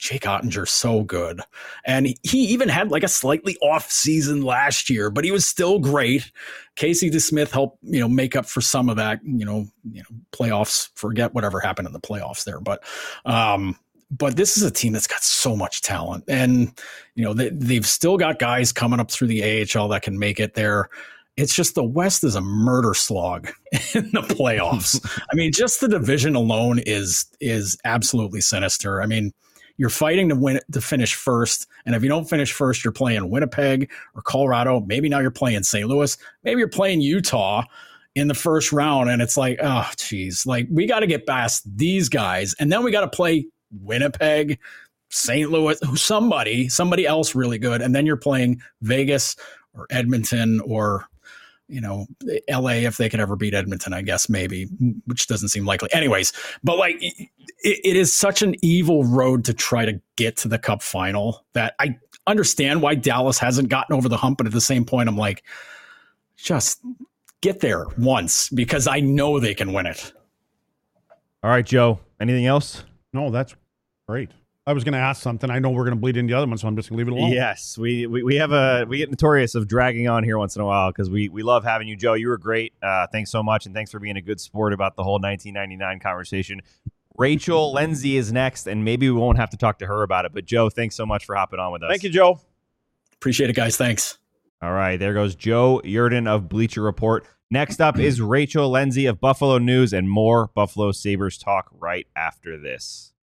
Speaker 4: Jake Ottinger's so good. And he even had like a slightly off season last year, but he was still great. Casey DeSmith helped, you know, make up for some of that, you know, you know, playoffs, forget whatever happened in the playoffs there. But, um, but this is a team that's got so much talent, and, you know, they, they've still got guys coming up through the A H L that can make it there. It's just the West is a murder slog in the playoffs. I mean, just the division alone is is absolutely sinister. I mean, you're fighting to win to finish first, and if you don't finish first, you're playing Winnipeg or Colorado. Maybe now you're playing Saint Louis. Maybe you're playing Utah in the first round, and it's like, oh, geez, like we got to get past these guys, and then we got to play Winnipeg, Saint Louis, somebody, somebody else really good, and then you're playing Vegas or Edmonton or, you know, L A if they could ever beat Edmonton, I guess maybe, which doesn't seem likely. Anyways, but like it, it is such an evil road to try to get to the Cup final that I understand why Dallas hasn't gotten over the hump, but at the same point, I'm like, just get there once because I know they can win it.
Speaker 2: All right, Joe. Anything else?
Speaker 1: No, that's great. I was going to ask something. I know we're going to bleed into the other one, so I'm just going to leave it alone.
Speaker 2: Yes, we, we we have a we get notorious of dragging on here once in a while because we we love having you, Joe. You were great. Uh, thanks so much, and thanks for being a good sport about the whole nineteen ninety-nine conversation. Rachel Lindsay is next, and maybe we won't have to talk to her about it. But Joe, thanks so much for hopping on with us.
Speaker 1: Thank you, Joe.
Speaker 4: Appreciate it, guys. Thanks.
Speaker 2: All right, there goes Joe Yerdon of Bleacher Report. Next up is Rachel Lindsay of Buffalo News, and more Buffalo Sabres talk right after this.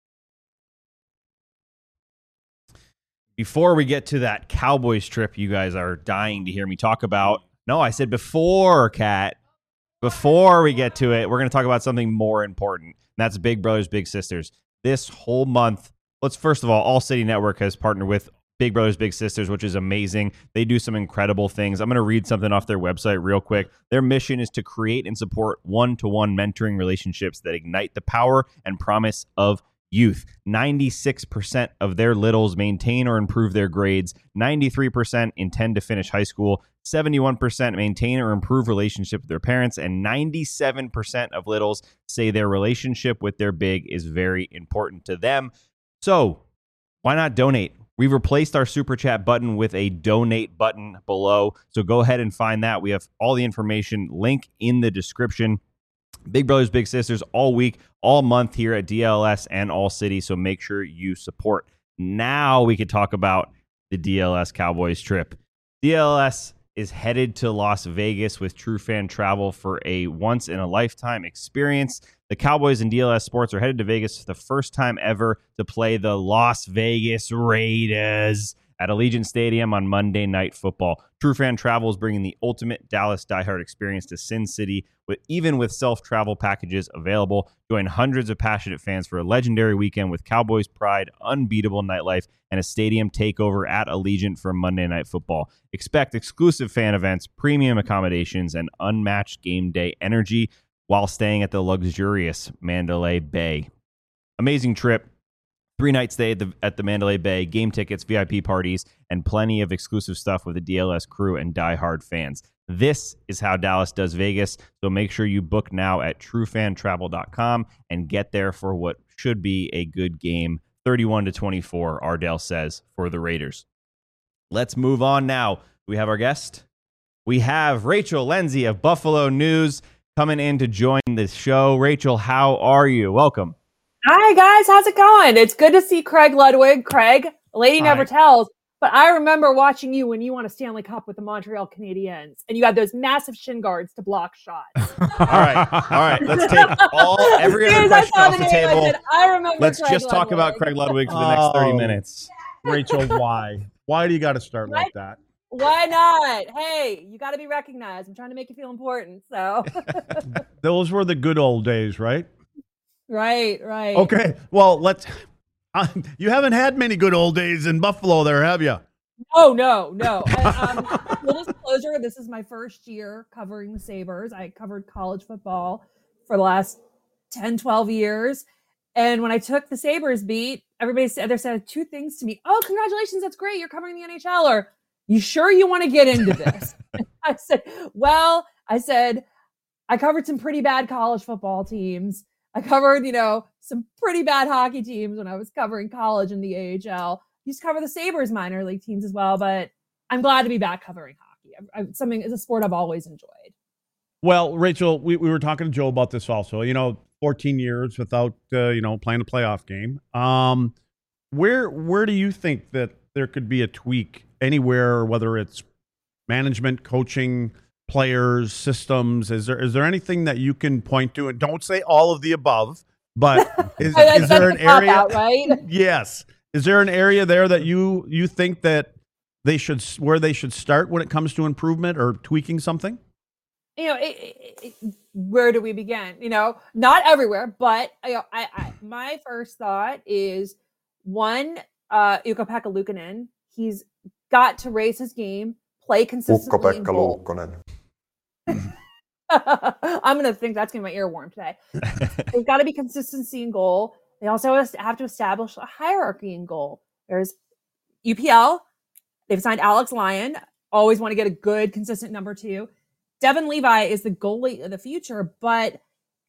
Speaker 2: Before we get to that Cowboys trip you guys are dying to hear me talk about, no, I said before, Kat. Before we get to it, we're going to talk about something more important, and that's Big Brothers Big Sisters. This whole month, let's first of all, All City Network has partnered with Big Brothers Big Sisters, which is amazing. They do some incredible things. I'm going to read something off their website real quick. Their mission is to create and support one-to-one mentoring relationships that ignite the power and promise of youth. ninety-six percent of their littles maintain or improve their grades. ninety-three percent intend to finish high school. seventy-one percent maintain or improve relationship with their parents. And ninety-seven percent of littles say their relationship with their big is very important to them. So why not donate? We've replaced our Super Chat button with a donate button below. So go ahead and find that. We have all the information, link in the description. Big Brothers Big Sisters all week, all month here at D L S and All City. So make sure you support. Now we could talk about the D L S Cowboys trip. D L S is headed to Las Vegas with True Fan Travel for a once-in-a-lifetime experience. The Cowboys and D L S Sports are headed to Vegas for the first time ever to play the Las Vegas Raiders at Allegiant Stadium on Monday Night Football. True Fan Travel is bringing the ultimate Dallas diehard experience to Sin City, with even with self-travel packages available. Join hundreds of passionate fans for a legendary weekend with Cowboys pride, unbeatable nightlife, and a stadium takeover at Allegiant for Monday Night Football. Expect exclusive fan events, premium accommodations, and unmatched game day energy while staying at the luxurious Mandalay Bay. Amazing trip. Three-night stay at the, at the Mandalay Bay, game tickets, V I P parties, and plenty of exclusive stuff with the D L S crew and diehard fans. This is how Dallas does Vegas, so make sure you book now at true fan travel dot com and get there for what should be a good game. thirty-one to twenty-four, Ardell says, for the Raiders. Let's move on now. We have our guest. We have Rachel Lindsay of Buffalo News coming in to join the show. Rachel, how are you? Welcome.
Speaker 3: Hi, guys. How's it going? It's good to see Craig Ludwig. Craig, a lady never
Speaker 1: Hi.
Speaker 3: tells, but I remember watching you when you won a Stanley Cup with the Montreal Canadiens, and you had those massive shin guards to block shots.
Speaker 2: All right. All right. Let's take all every
Speaker 3: As
Speaker 2: other
Speaker 3: soon as I
Speaker 2: question
Speaker 3: saw
Speaker 2: off
Speaker 3: the
Speaker 2: the
Speaker 3: name, I
Speaker 2: table.
Speaker 3: said, I remember
Speaker 2: Let's
Speaker 3: Craig
Speaker 2: just talk
Speaker 3: Ludwig.
Speaker 2: about Craig Ludwig for the next thirty
Speaker 1: Oh.
Speaker 2: minutes.
Speaker 1: Rachel, why? Why do you got to start like that?
Speaker 3: Why not? Hey, you got to be recognized. I'm trying to make you feel important. So,
Speaker 1: Those were the good old days, right?
Speaker 3: right, right.
Speaker 1: Okay. Well, let's. Uh, you haven't had many good old days in Buffalo, there, have you?
Speaker 3: Oh, no, no. And, um, full disclosure, this is my first year covering the Sabres. I covered college football for the last ten, twelve years. And when I took the Sabres beat, everybody said, they said two things to me. Oh, congratulations. That's great. You're covering the N H L. Or, you sure you want to get into this? I said, well, I said, I covered some pretty bad college football teams. I covered, you know, some pretty bad hockey teams when I was covering college in the A H L. Used to cover the Sabres minor league teams as well, but I'm glad to be back covering hockey. I, I, something it's a sport I've always enjoyed.
Speaker 1: Well, Rachel, we, we were talking to Joe about this also. You know, fourteen years without uh, you know playing a playoff game. Um, where where do you think that there could be a tweak anywhere, whether it's management, coaching, players, systems? Is there is there anything that you can point to? And don't say all of the above, but is, is there an area?
Speaker 3: Out, right?
Speaker 1: Yes. Is there an area there that you you think that they should where they should start when it comes to improvement or tweaking something?
Speaker 3: You know, it, it, it, where do we begin? You know, not everywhere, but you know, I, I my first thought is one, uh, Ukko-Pekka Luukkonen. He's got to raise his game, play consistently.
Speaker 5: Ukko-Pekka Luukkonen.
Speaker 3: I'm gonna think that's gonna be my earworm today. There's got to be consistency in goal. They also have to establish a hierarchy in goal. There's U P L. They've signed Alex Lyon. Always want to get a good, consistent number two. Devin Levi is the goalie of the future, but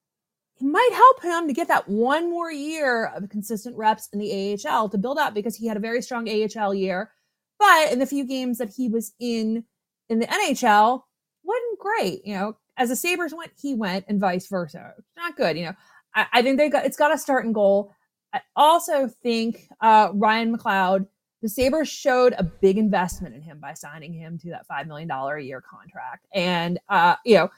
Speaker 3: it might help him to get that one more year of consistent reps in the A H L to build up, because he had a very strong A H L year. But in the few games that he was in in the N H L, wasn't great. You know, as the Sabres went, he went, and vice versa. Not good. You know, I, I think they got it's got to start in goal. I also think uh, Ryan McLeod. The Sabres showed a big investment in him by signing him to that five million dollars a year contract. And, uh, you know,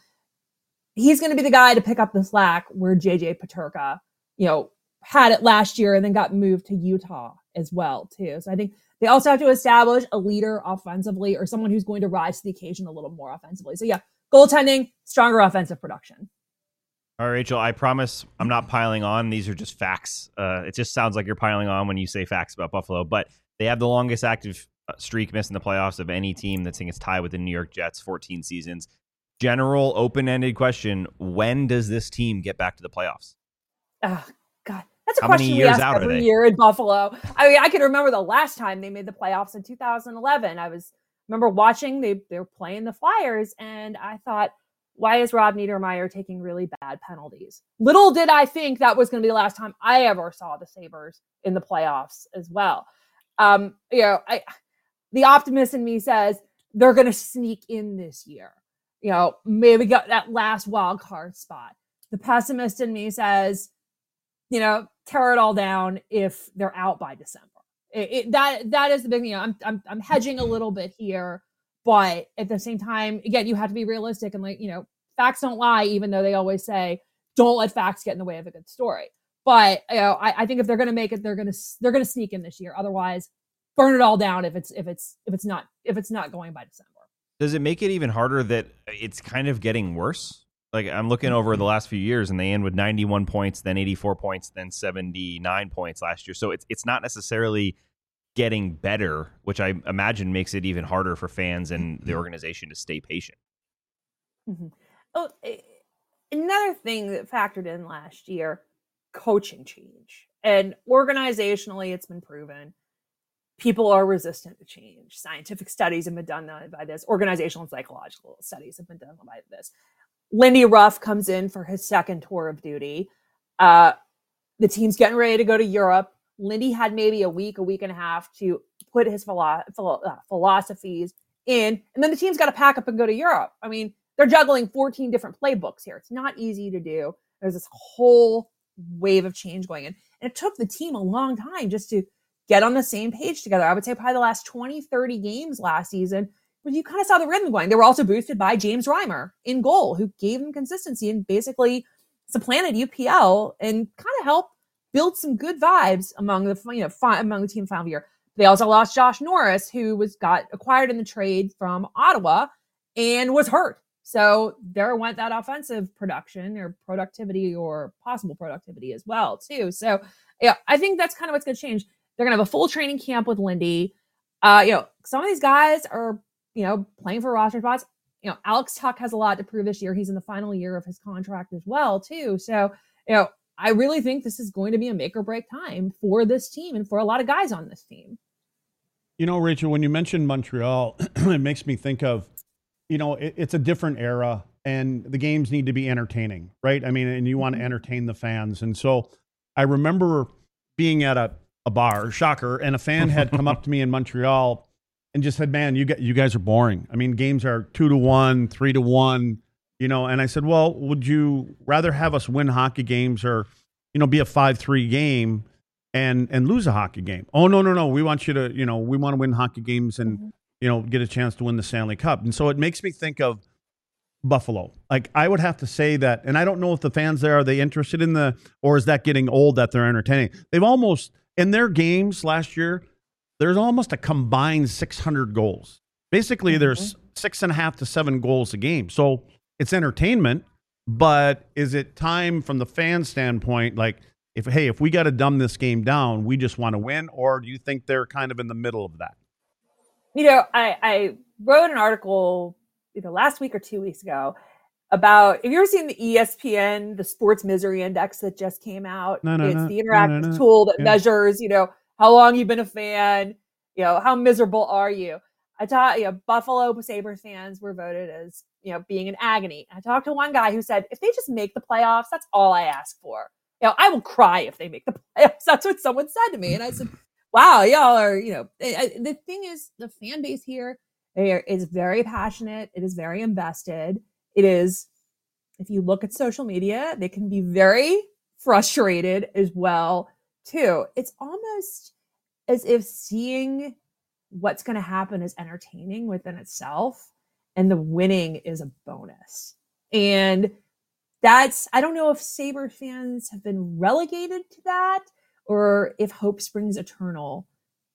Speaker 3: he's going to be the guy to pick up the slack where J J Peterka, you know, had it last year and then got moved to Utah as well, too. So I think they also have to establish a leader offensively, or someone who's going to rise to the occasion a little more offensively. So, yeah, goaltending, stronger offensive production.
Speaker 2: All right, Rachel, I promise I'm not piling on. These are just facts. Uh, it just sounds like you're piling on when you say facts about Buffalo, but they have the longest active streak missing the playoffs of any team that's in its tie with the New York Jets, fourteen seasons. General open-ended question, when does this team get back to the playoffs?
Speaker 3: Oh, God. That's a
Speaker 2: How
Speaker 3: question
Speaker 2: many
Speaker 3: we
Speaker 2: years
Speaker 3: ask
Speaker 2: out are
Speaker 3: every
Speaker 2: they?
Speaker 3: year in Buffalo. I mean, I can remember the last time they made the playoffs in two thousand eleven. I was remember watching, they, they were playing the Flyers, and I thought, why is Rob Niedermeyer taking really bad penalties? Little did I think that was going to be the last time I ever saw the Sabres in the playoffs as well. Um, you know, I, the optimist in me says they're going to sneak in this year. You know, maybe get that last wild card spot. The pessimist in me says, you know, tear it all down if they're out by December. It, it, that that is the big thing. You know, I'm I'm I'm hedging a little bit here, but at the same time, again, you have to be realistic, and like, you know, facts don't lie, even though they always say don't let facts get in the way of a good story. But you know, I, I think if they're going to make it, they're going to they're going to sneak in this year. Otherwise, burn it all down if it's if it's if it's not if it's not going by December.
Speaker 2: Does it make it even harder that it's kind of getting worse? Like, I'm looking over the last few years, and they end with ninety-one points, then eighty-four points, then seventy-nine points last year. So it's it's not necessarily getting better, which I imagine makes it even harder for fans and the organization to stay patient.
Speaker 3: Mm-hmm. Oh, another thing that factored in last year. Coaching change, and organizationally it's been proven people are resistant to change. Scientific studies have been done by this. Organizational and psychological studies have been done by this. Lindy Ruff comes in for his second tour of duty. Uh, the team's getting ready to go to Europe. Lindy had maybe a week, a week and a half to put his philo- philo- uh, philosophies in, and then the team's got to pack up and go to Europe. I mean, they're juggling fourteen different playbooks here. It's not easy to do. There's this whole wave of change going in. And it took the team a long time just to get on the same page together. I would say probably the last twenty, thirty games last season, where you kind of saw the rhythm going. They were also boosted by James Reimer in goal, who gave them consistency and basically supplanted U P L and kind of helped build some good vibes among the, you know, fi- among the team final year. They also lost Josh Norris, who was got acquired in the trade from Ottawa and was hurt. So there went that offensive production or productivity or possible productivity as well, too. So, yeah, I think that's kind of what's going to change. They're going to have a full training camp with Lindy. Uh, you know, some of these guys are, you know, playing for roster spots. You know, Alex Tuch has a lot to prove this year. He's in the final year of his contract as well, too. So, you know, I really think this is going to be a make or break time for this team and for a lot of guys on this team.
Speaker 1: You know, Rachel, when you mentioned Montreal, it makes me think of, you know, it, it's a different era and the games need to be entertaining, right? I mean, and you want to entertain the fans. And so I I remember being at a, a bar, shocker, and a fan had come up to me in Montreal and just said, man, you, get, you guys are boring. I mean, games are two to one, three to one, you know, and I said, well, would you rather have us win hockey games or, you know, be a five three game and and lose a hockey game? Oh, no, no, no. We want you to, you know, we want to win hockey games and, mm-hmm. you know, get a chance to win the Stanley Cup. And so it makes me think of Buffalo. Like, I would have to say that, and I don't know if the fans there, are they interested in the, or is that getting old that they're entertaining? They've almost, in their games last year, there's almost a combined six hundred goals. Basically, mm-hmm. there's six and a half to seven goals a game. So it's entertainment, but is it time from the fan standpoint, like, if, hey, if we got to dumb this game down, we just want to win, or do you think they're kind of in the middle of that?
Speaker 3: You know, I, I wrote an article either last week or two weeks ago about, have you ever seen the E S P N, the Sports Misery Index that just came out?
Speaker 1: No, no,
Speaker 3: it's
Speaker 1: no,
Speaker 3: the interactive
Speaker 1: no, no, no.
Speaker 3: tool that
Speaker 1: yeah.
Speaker 3: measures, you know, how long you've been a fan, you know, how miserable are you? I taught, you know, Buffalo Sabres fans were voted as, you know, being in agony. I talked to one guy who said, if they just make the playoffs, that's all I ask for. You know, I will cry if they make the playoffs. That's what someone said to me. And I said, wow, y'all are, you know, the thing is, the fan base here is very passionate. It is very invested. It is, if you look at social media, they can be very frustrated as well, too. It's almost as if seeing what's going to happen is entertaining within itself, and the winning is a bonus. And that's, I don't know if Sabre fans have been relegated to that, or if hope springs eternal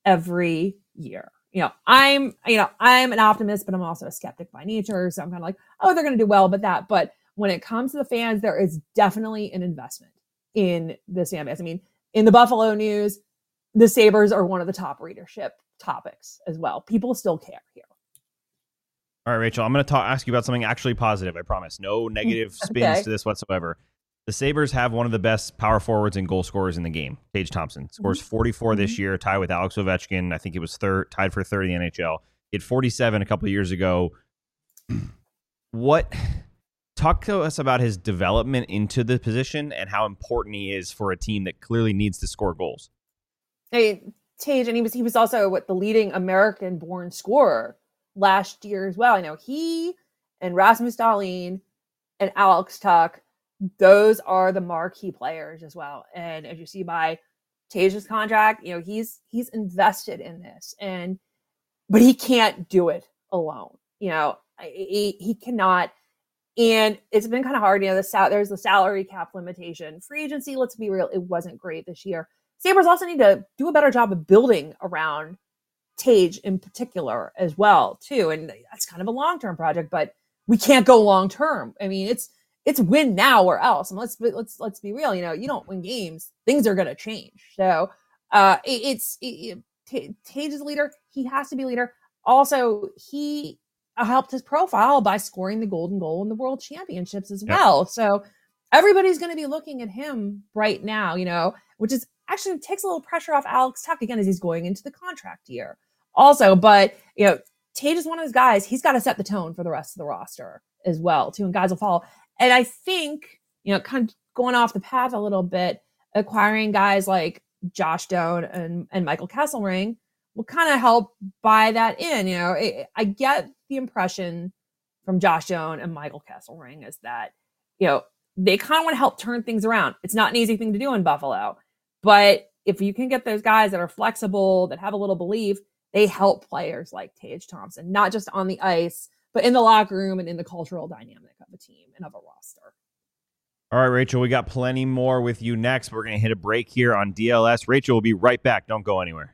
Speaker 3: every year. You know, I'm, you know, I'm an optimist, but I'm also a skeptic by nature. So I'm kind of like, oh, they're going to do well, but that, but when it comes to the fans, there is definitely an investment in this fan base. I mean, in the Buffalo News, the Sabres are one of the top readership topics as well. People still care here.
Speaker 2: All right, Rachel, I'm going to talk, ask you about something actually positive. I promise. No negative spins
Speaker 3: okay.
Speaker 2: to this whatsoever. The Sabres have one of the best power forwards and goal scorers in the game. Tage Thompson scores forty-four mm-hmm. this year, tied with Alex Ovechkin. I think he was third, tied for third in the N H L. He had forty-seven a couple of years ago. What? Talk to us about his development into the position and how important he is for a team that clearly needs to score goals.
Speaker 3: Hey, Tage, and he was he was also what the leading American-born scorer last year as well. I know he and Rasmus Dahlin and Alex Tuch, those are the marquee players as well. And as you see by Tage's contract, you know, he's he's invested in this, and but he can't do it alone. You know, he, he cannot. And it's been kind of hard. You know, the sal- there's the salary cap limitation. Free agency, let's be real, it wasn't great this year. Sabres also need to do a better job of building around Tage in particular as well, too. And that's kind of a long-term project, but we can't go long-term. I mean, it's it's win now or else. And let's let's let's be real. You know, you don't win games, things are going to change. So uh, it, it's it, it, Tage is a leader. He has to be a leader. Also, he helped his profile by scoring the golden goal in the World Championships as well. Yep. So everybody's going to be looking at him right now, you know, which is actually takes a little pressure off Alex Tuch again as he's going into the contract year. Also, but you know, Tage is one of those guys. He's got to set the tone for the rest of the roster as well, too, and guys will follow. And I think, you know, kind of going off the path a little bit, acquiring guys like Josh Doan and, and Michael Kesselring will kind of help buy that in. You know, it, I get the impression from Josh Doan and Michael Kesselring is that, you know, they kind of want to help turn things around. It's not an easy thing to do in Buffalo, but if you can get those guys that are flexible, that have a little belief, they help players like Tage Thompson, not just on the ice, but in the locker room and in the cultural dynamic of a team and of a roster.
Speaker 2: All right, Rachel, we got plenty more with you next. We're going to hit a break here on D L S. Rachel will be right back. Don't go anywhere.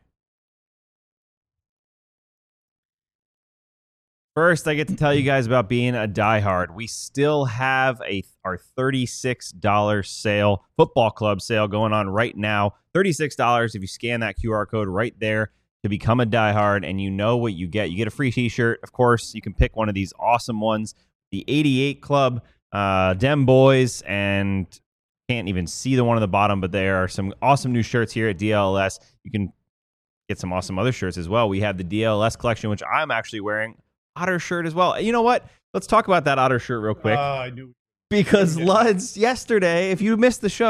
Speaker 2: First, I get to tell you guys about being a diehard. We still have a our thirty-six dollars sale, football club sale going on right now. thirty-six dollars if you scan that Q R code right there to become a diehard, and you know what you get. You get a free t-shirt. Of course, you can pick one of these awesome ones. The eighty-eight Club, uh, Dem Boys, and can't even see the one on the bottom, but there are some awesome new shirts here at D L S. You can get some awesome other shirts as well. We have the D L S collection, which I'm actually wearing. Otter shirt as well. You know what? Let's talk about that Otter shirt real quick.
Speaker 1: Uh, I knew.
Speaker 2: Because Luds yesterday, if you missed the show,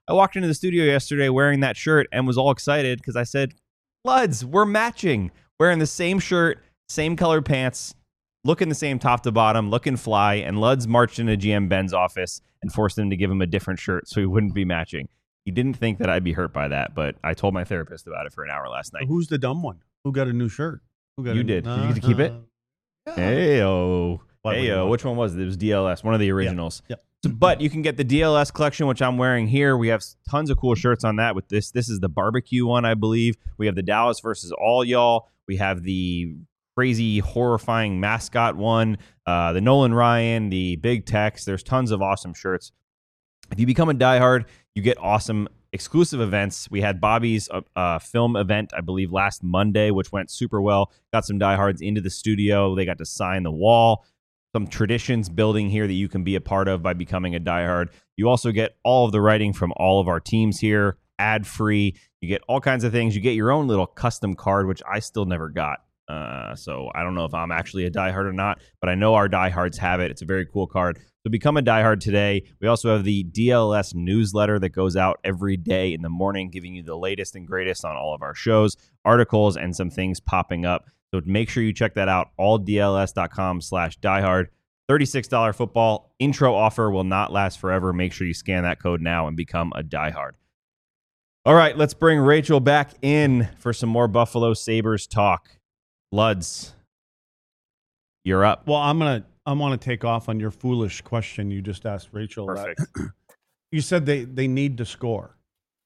Speaker 2: I walked into the studio yesterday wearing that shirt and was all excited because I said, Luds, we're matching. Wearing the same shirt, same colored pants, looking the same top to bottom, looking fly, and Luds marched into G M Ben's office and forced him to give him a different shirt so he wouldn't be matching. He didn't think that I'd be hurt by that, but I told my therapist about it for an hour last night.
Speaker 1: Who's the dumb one? Who got a new shirt? Who got
Speaker 2: you
Speaker 1: a,
Speaker 2: did.
Speaker 1: Uh,
Speaker 2: did you get to keep it?
Speaker 1: Uh,
Speaker 2: Heyo.
Speaker 1: What
Speaker 2: Heyo.
Speaker 1: one?
Speaker 2: Which one was it? It was D L S, one of the originals.
Speaker 1: Yep. Yep.
Speaker 2: So, but you can get the D L S collection, which I'm wearing here. We have tons of cool shirts on that with this. This is the barbecue one, I believe. We have the Dallas versus all y'all. We have the crazy, horrifying mascot one, uh, the Nolan Ryan, the Big Tex. There's tons of awesome shirts. If you become a diehard, you get awesome exclusive events. We had Bobby's uh, uh, film event, I believe, last Monday, which went super well. Got some diehards into the studio. They got to sign the wall. Some traditions building here that you can be a part of by becoming a diehard. You also get all of the writing from all of our teams here, ad-free. You get all kinds of things. You get your own little custom card, which I still never got. Uh, so I don't know if I'm actually a diehard or not, but I know our diehards have it. It's a very cool card. So become a diehard today. We also have the D L S newsletter that goes out every day in the morning, giving you the latest and greatest on all of our shows, articles, and some things popping up. So make sure you check that out, all D L S dot com slash diehard. thirty-six dollars football. Intro offer will not last forever. Make sure you scan that code now and become a diehard. All right, let's bring Rachel back in for some more Buffalo Sabres talk. Luds, you're up.
Speaker 1: Well, I'm gonna I want to take off on your foolish question you just asked Rachel.
Speaker 2: Perfect.
Speaker 1: That, you said they, they need to score.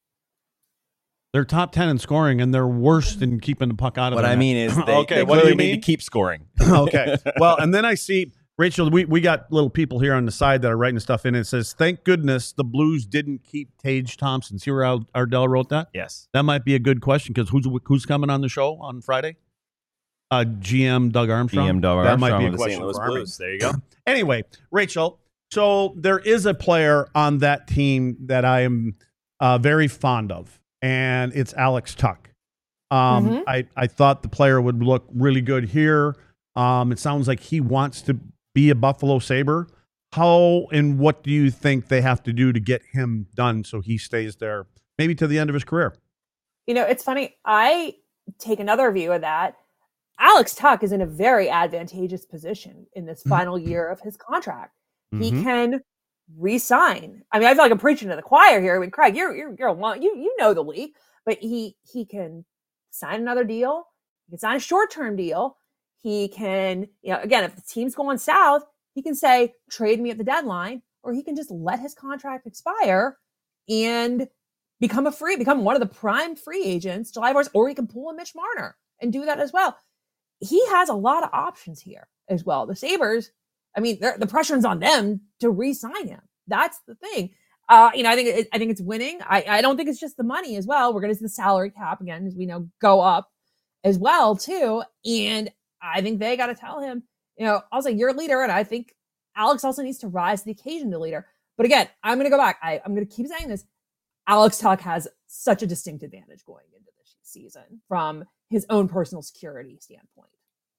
Speaker 1: They're top ten in scoring, and they're worse than keeping the puck out of
Speaker 2: What
Speaker 1: the
Speaker 2: I
Speaker 1: net.
Speaker 2: mean is they,
Speaker 1: okay,
Speaker 2: they
Speaker 1: what do
Speaker 2: clearly
Speaker 1: you
Speaker 2: need
Speaker 1: mean?
Speaker 2: to keep scoring.
Speaker 1: Okay. Well, and then I see, Rachel, we, we got little people here on the side that are writing stuff in. It says, thank goodness the Blues didn't keep Tage Thompson. See where Al- Ardell wrote that?
Speaker 2: Yes.
Speaker 1: That might be a good question because who's who's coming on the show on Friday? Uh, G M Doug Armstrong.
Speaker 2: G M Doug
Speaker 1: that
Speaker 2: Armstrong
Speaker 1: might be a
Speaker 2: of the
Speaker 1: question
Speaker 2: Saint Louis
Speaker 1: for Army.
Speaker 2: Blues. There you go.
Speaker 1: Anyway, Rachel, so there is a player on that team that I am uh, very fond of, and it's Alex Tuch. Um,
Speaker 3: Mhm.
Speaker 1: I, I thought the player would look really good here. Um, it sounds like he wants to be a Buffalo Sabre. How and what do you think they have to do to get him done so he stays there maybe to the end of his career?
Speaker 3: You know, it's funny. I take another view of that. Alex Tuch is in a very advantageous position in this final year of his contract. He
Speaker 1: Mhm.
Speaker 3: can re-sign. I mean, I feel like I'm preaching to the choir here. I mean, Craig, you're you're you're a long, you you know the league, but he he can sign another deal. He can sign a short-term deal. He can, you know, again, if the team's going south, he can say trade me at the deadline, or he can just let his contract expire and become a free, become one of the prime free agents July first, or he can pull a Mitch Marner and do that as well. He has a lot of options here as well. The Sabres, I mean, the pressure's on them to re-sign him. That's the thing. Uh, you know, I think it, I think it's winning. I, I don't think it's just the money as well. We're going to see the salary cap again, as we know, go up as well too. And I think they got to tell him, you know, I'll say you're a leader, and I think Alex also needs to rise to the occasion to leader. But again, I'm going to go back. I, I'm going to keep saying this. Alex Tuch has such a distinct advantage going into this season from his own personal security standpoint.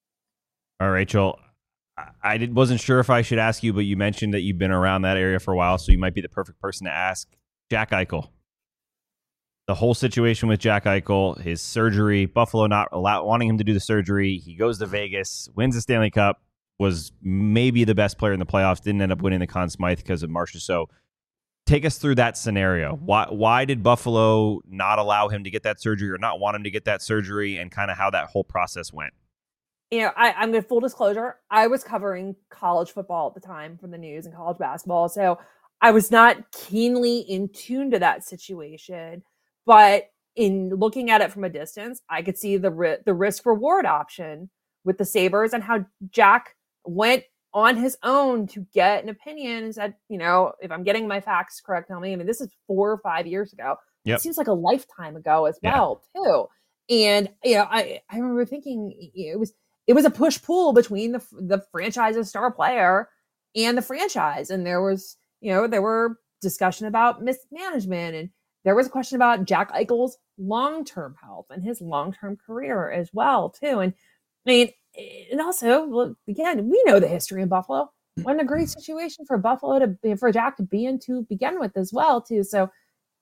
Speaker 2: All right, Rachel. I did, wasn't sure if I should ask you, but you mentioned that you've been around that area for a while, so you might be the perfect person to ask. Jack Eichel. The whole situation with Jack Eichel, his surgery, Buffalo not allow, wanting him to do the surgery. He goes to Vegas, wins the Stanley Cup, was maybe the best player in the playoffs, didn't end up winning the Conn Smythe because of Marcia. So take us through that scenario. Why, why did Buffalo not allow him to get that surgery or not want him to get that surgery, and kind of how that whole process went?
Speaker 3: You know, I, I'm going to full disclosure. I was covering college football at the time for the news and college basketball. So I was not keenly in tune to that situation, but in looking at it from a distance, I could see the, ri- the risk reward option with the Sabres and how Jack went on his own to get an opinion and said, you know, if I'm getting my facts correct, tell me. I mean, this is four or five years ago. Yep. It seems like a lifetime ago as well, yeah. too. And, you know, I, I remember thinking it was, It was a push-pull between the the franchise's star player and the franchise. And there was, you know, there were discussion about mismanagement, and there was a question about Jack Eichel's long-term health and his long-term career as well, too. And I mean, and also, well, again, we know the history in Buffalo. What a great situation for Buffalo to be, for Jack to be in to begin with as well, too. So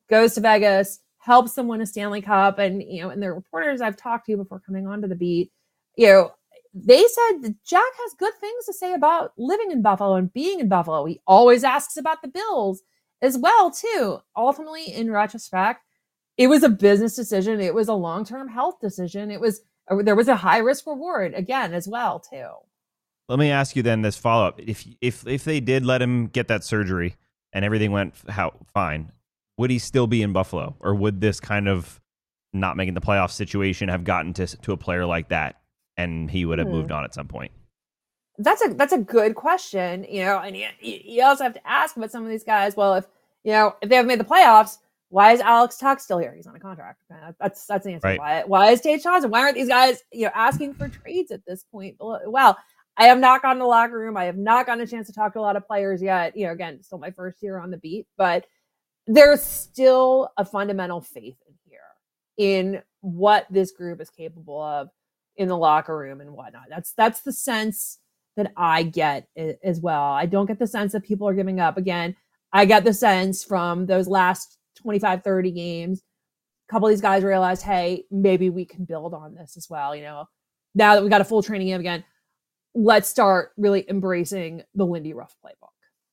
Speaker 3: goes to Vegas, helps them win a Stanley Cup. And, you know, and the reporters I've talked to before coming onto the beat, you know, they said that Jack has good things to say about living in Buffalo and being in Buffalo. He always asks about the Bills as well, too. Ultimately, in retrospect, it was a business decision. It was a long-term health decision. It was, there was a high risk reward again, as well, too.
Speaker 2: Let me ask you then this follow-up. If, if, if they did let him get that surgery and everything went how, fine, would he still be in Buffalo? Or would this kind of not making the playoff situation have gotten to, to a player like that and he would have hmm. moved on at some point?
Speaker 3: That's a that's a good question, you know, and you, you also have to ask about some of these guys. Well, if, you know, if they have made the playoffs, why is Alex Tuch still here? He's on a contract. That's that's the answer.
Speaker 2: Right.
Speaker 3: Why, why is Tage Johnson? Why aren't these guys, you know, asking for trades at this point? Well, I have not gone to the locker room. I have not gotten a chance to talk to a lot of players yet. You know, again, still my first year on the beat, but there's still a fundamental faith in here in what this group is capable of in the locker room and whatnot. That's that's the sense that I get as well. I don't get the sense that people are giving up. Again, I get the sense from those last twenty-five, thirty games, a couple of these guys realized, hey, maybe we can build on this as well. You know, now that we got a full training game again, let's start really embracing the Lindy Ruff playbook.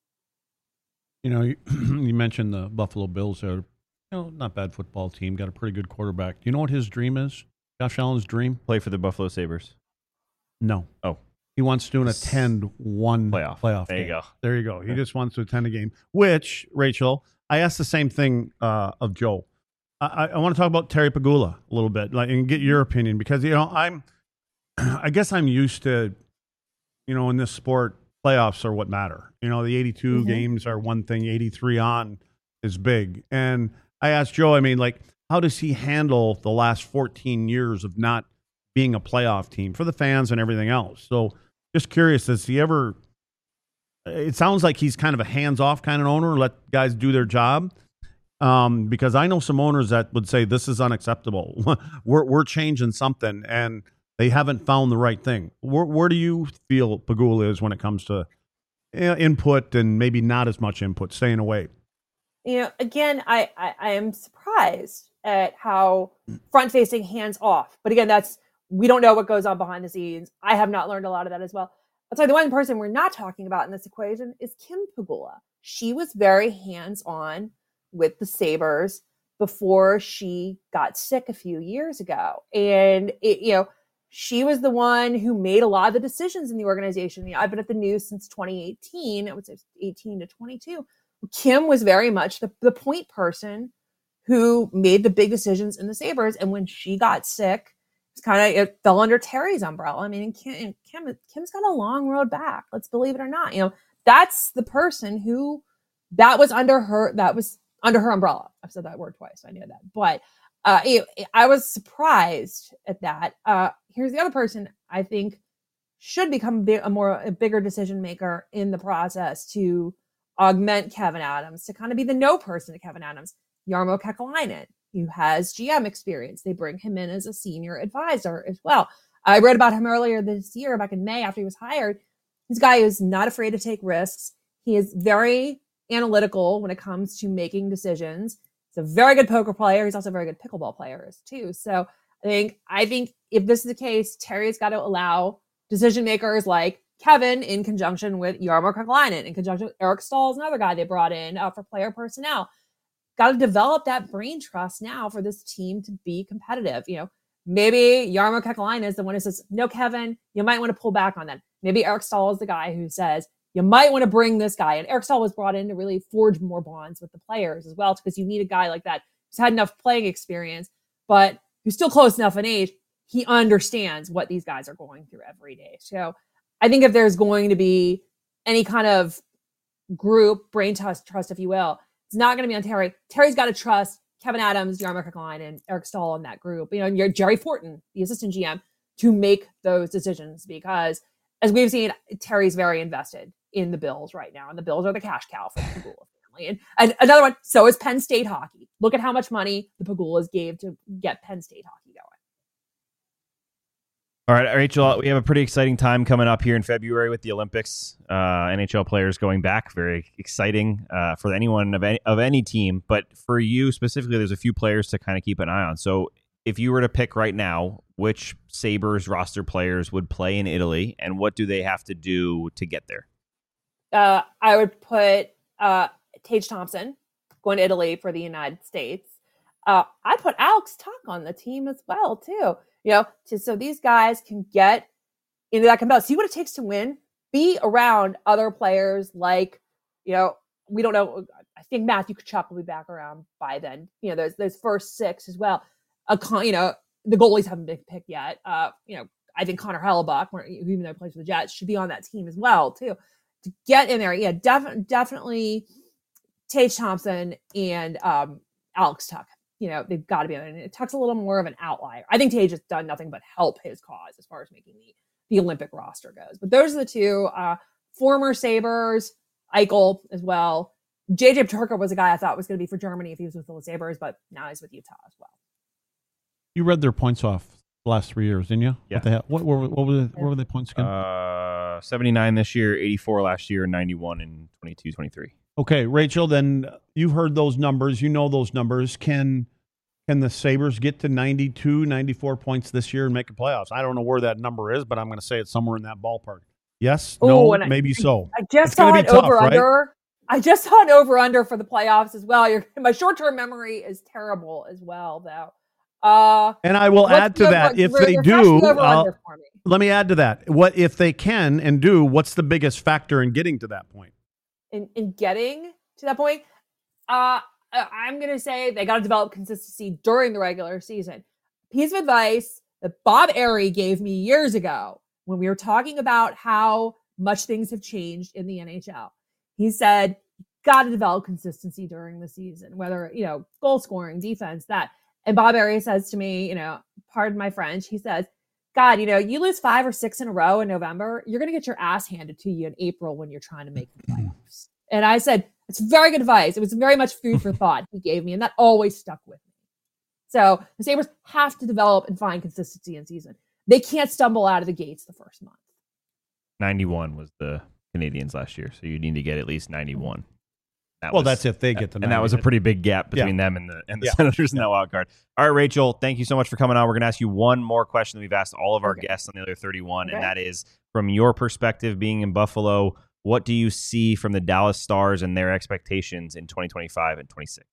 Speaker 1: You know, you, you mentioned the Buffalo Bills are, you know, not bad football team, got a pretty good quarterback. Do you know what his dream is? Josh Allen's dream?
Speaker 2: Play for the Buffalo Sabres.
Speaker 1: No.
Speaker 2: Oh.
Speaker 1: He wants to attend one
Speaker 2: playoff.
Speaker 1: playoff
Speaker 2: there
Speaker 1: game.
Speaker 2: you go.
Speaker 1: There you go. He just wants to attend a game, which, Rachel, I asked the same thing uh, of Joe. I, I want to talk about Terry Pegula a little bit, like, and get your opinion, because, you know, I'm, I guess I'm used to, you know, in this sport, playoffs are what matter. You know, the eighty-two mm-hmm. games are one thing, eighty-three on is big. And I asked Joe, I mean, like, how does he handle the last fourteen years of not being a playoff team for the fans and everything else? So just curious, does he ever, it sounds like he's kind of a hands-off kind of owner, let guys do their job. Um, because I know some owners that would say this is unacceptable. we're we're changing something, and they haven't found the right thing. Where, where do you feel Pegula is when it comes to input and maybe not as much input, staying away?
Speaker 3: You know, again, I, I, I am surprised at how front-facing, hands-off. But again, that's, we don't know what goes on behind the scenes. I have not learned a lot of that as well. I'll tell you, the one person we're not talking about in this equation is Kim Pegula. She was very hands-on with the Sabres before she got sick a few years ago. And, it, you know, she was the one who made a lot of the decisions in the organization. You know, I've been at the news since twenty eighteen. It was eighteen to twenty-two. Kim was very much the, the point person who made the big decisions in the Sabres. And when she got sick, it's kind of, it fell under Terry's umbrella. I mean, Kim, Kim, Kim's got a long road back. Let's believe it or not. You know, that's the person who, that was under her, that was under her umbrella. I've said that word twice. I knew that. But uh, it, I was surprised at that. Uh, here's the other person I think should become a more, a bigger decision maker in the process to augment Kevyn Adams, to kind of be the no person to Kevyn Adams. Jarmo Kekalainen, who has G M experience. They bring him in as a senior advisor as well. I read about him earlier this year, back in May, after he was hired. He's a guy who's not afraid to take risks. He is very analytical when it comes to making decisions. He's a very good poker player. He's also a very good pickleball player too. So I think, I think if this is the case, Terry's got to allow decision makers like Kevin, in conjunction with Jarmo Kekalainen, in conjunction with Eric Staal, another guy they brought in uh, for player personnel. Got to develop that brain trust now for this team to be competitive. You know, maybe Jarmo Kekalainen is the one who says, no, Kevin, you might want to pull back on that. Maybe Eric Staal is the guy who says, you might want to bring this guy. And Eric Staal was brought in to really forge more bonds with the players as well, because you need a guy like that who's had enough playing experience, but who's still close enough in age. He understands what these guys are going through every day. So I think if there's going to be any kind of group, brain trust, trust, if you will, it's not going to be on Terry. Terry's got to trust Kevyn Adams, Jarmo Kekalainen, and Eric Staal in that group. You know, and you're Jerry Fortin, the assistant G M, to make those decisions, because as we've seen, Terry's very invested in the Bills right now, and the Bills are the cash cow for the Pegula family. And, and another one, so is Penn State hockey. Look at how much money the Pegulas gave to get Penn State hockey going.
Speaker 2: All right, Rachel, we have a pretty exciting time coming up here in February with the Olympics. Uh, N H L players going back, very exciting uh, for anyone of any, of any team. But for you specifically, there's a few players to kind of keep an eye on. So if you were to pick right now, which Sabres roster players would play in Italy, and what do they have to do to get there?
Speaker 3: Uh, I would put uh, Tage Thompson going to Italy for the United States. Uh, I'd put Alex Tuch on the team as well, too. You know, to, so these guys can get into that competition, see what it takes to win, be around other players like, you know, we don't know. I think Matthew Tkachuk will be back around by then. You know, there's those first six as well. A con, you know, the goalies haven't been picked yet. Uh, you know, I think Connor Hellebuck, even though he plays for the Jets, should be on that team as well, too. To get in there, yeah, def- definitely Tage Thompson and um, Alex Tuch. You know, they've got to be on it. Tuch's a little more of an outlier. I think Tage has done nothing but help his cause as far as making the, the Olympic roster goes. But those are the two. Uh, former Sabres, Eichel as well. J J Peterka was a guy I thought was going to be for Germany if he was with the Sabres, but now he's with Utah as well.
Speaker 1: You read their points off the last three years, didn't you?
Speaker 2: Yeah.
Speaker 1: What, the hell? what, what, what, were, the, what were the points again?
Speaker 2: Uh, seventy-nine this year, eighty-four last year, ninety-one in twenty-two twenty-three.
Speaker 1: Okay, Rachel, then you've heard those numbers. You know those numbers. Can can the Sabres get to ninety-two, ninety-four points this year and make the playoffs? I don't know where that number is, but I'm going to say it's somewhere in that ballpark. Yes?
Speaker 3: Ooh,
Speaker 1: no?
Speaker 3: I,
Speaker 1: maybe so.
Speaker 3: I just
Speaker 1: It's
Speaker 3: saw
Speaker 1: gonna
Speaker 3: an
Speaker 1: be tough,
Speaker 3: over
Speaker 1: right?
Speaker 3: under. I just saw an over under for the playoffs as well. Your, my short term memory is terrible as well, though. Uh,
Speaker 1: and I will add to
Speaker 3: over,
Speaker 1: that, if
Speaker 3: they're,
Speaker 1: they
Speaker 3: they're
Speaker 1: do,
Speaker 3: over
Speaker 1: I'll,
Speaker 3: under for me.
Speaker 1: let me add to that. What if they can and do, what's the biggest factor in getting to that point?
Speaker 3: In, in getting to that point, uh, I'm going to say they got to develop consistency during the regular season. Piece of advice that Bob Airey gave me years ago when we were talking about how much things have changed in the N H L. He said, got to develop consistency during the season, whether, you know, goal scoring, defense, that. And Bob Airey says to me, you know, pardon my French, he says, God, you know, you lose five or six in a row in November, you're going to get your ass handed to you in April when you're trying to make the playoffs. And I said, it's very good advice. It was very much food for thought he gave me, and that always stuck with me. So the Sabres have to develop and find consistency in season. They can't stumble out of the gates the first month.
Speaker 2: ninety-one was the Canadians last year, so you need to get at least ninety-one. That
Speaker 1: well,
Speaker 2: was,
Speaker 1: that's if they get to
Speaker 2: and that was a pretty big gap between
Speaker 1: yeah.
Speaker 2: them and the and the
Speaker 1: yeah.
Speaker 2: Senators in that wild card. All right, Rachel, thank you so much for coming on. We're going to ask you one more question that we've asked all of our
Speaker 3: okay.
Speaker 2: guests on the other thirty-one,
Speaker 3: okay.
Speaker 2: and that is, from your perspective, being in Buffalo, what do you see from the Dallas Stars and their expectations in twenty twenty-five and twenty-six?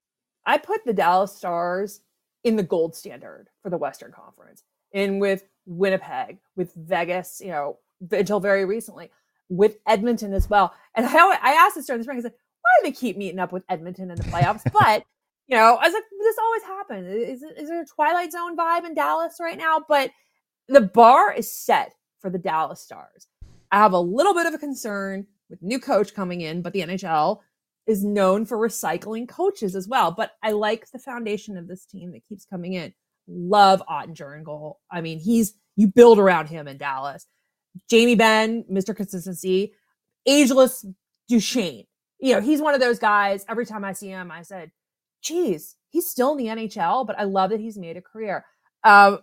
Speaker 3: I put the Dallas Stars in the gold standard for the Western Conference, and with Winnipeg, with Vegas, you know, until very recently, with Edmonton as well. And I, I asked this during the spring, I said, why do they keep meeting up with Edmonton in the playoffs? But, you know, I was like, this always happens. Is, is there a Twilight Zone vibe in Dallas right now? But the bar is set for the Dallas Stars. I have a little bit of a concern with new coach coming in, but the N H L is known for recycling coaches as well. But I like the foundation of this team that keeps coming in. Love Ottinger in goal. I mean, he's, you build around him in Dallas. Jamie Benn, Mister Consistency, ageless Duchesne. You know, he's one of those guys, every time I see him, I said, geez, he's still in the N H L, but I love that he's made a career. Um,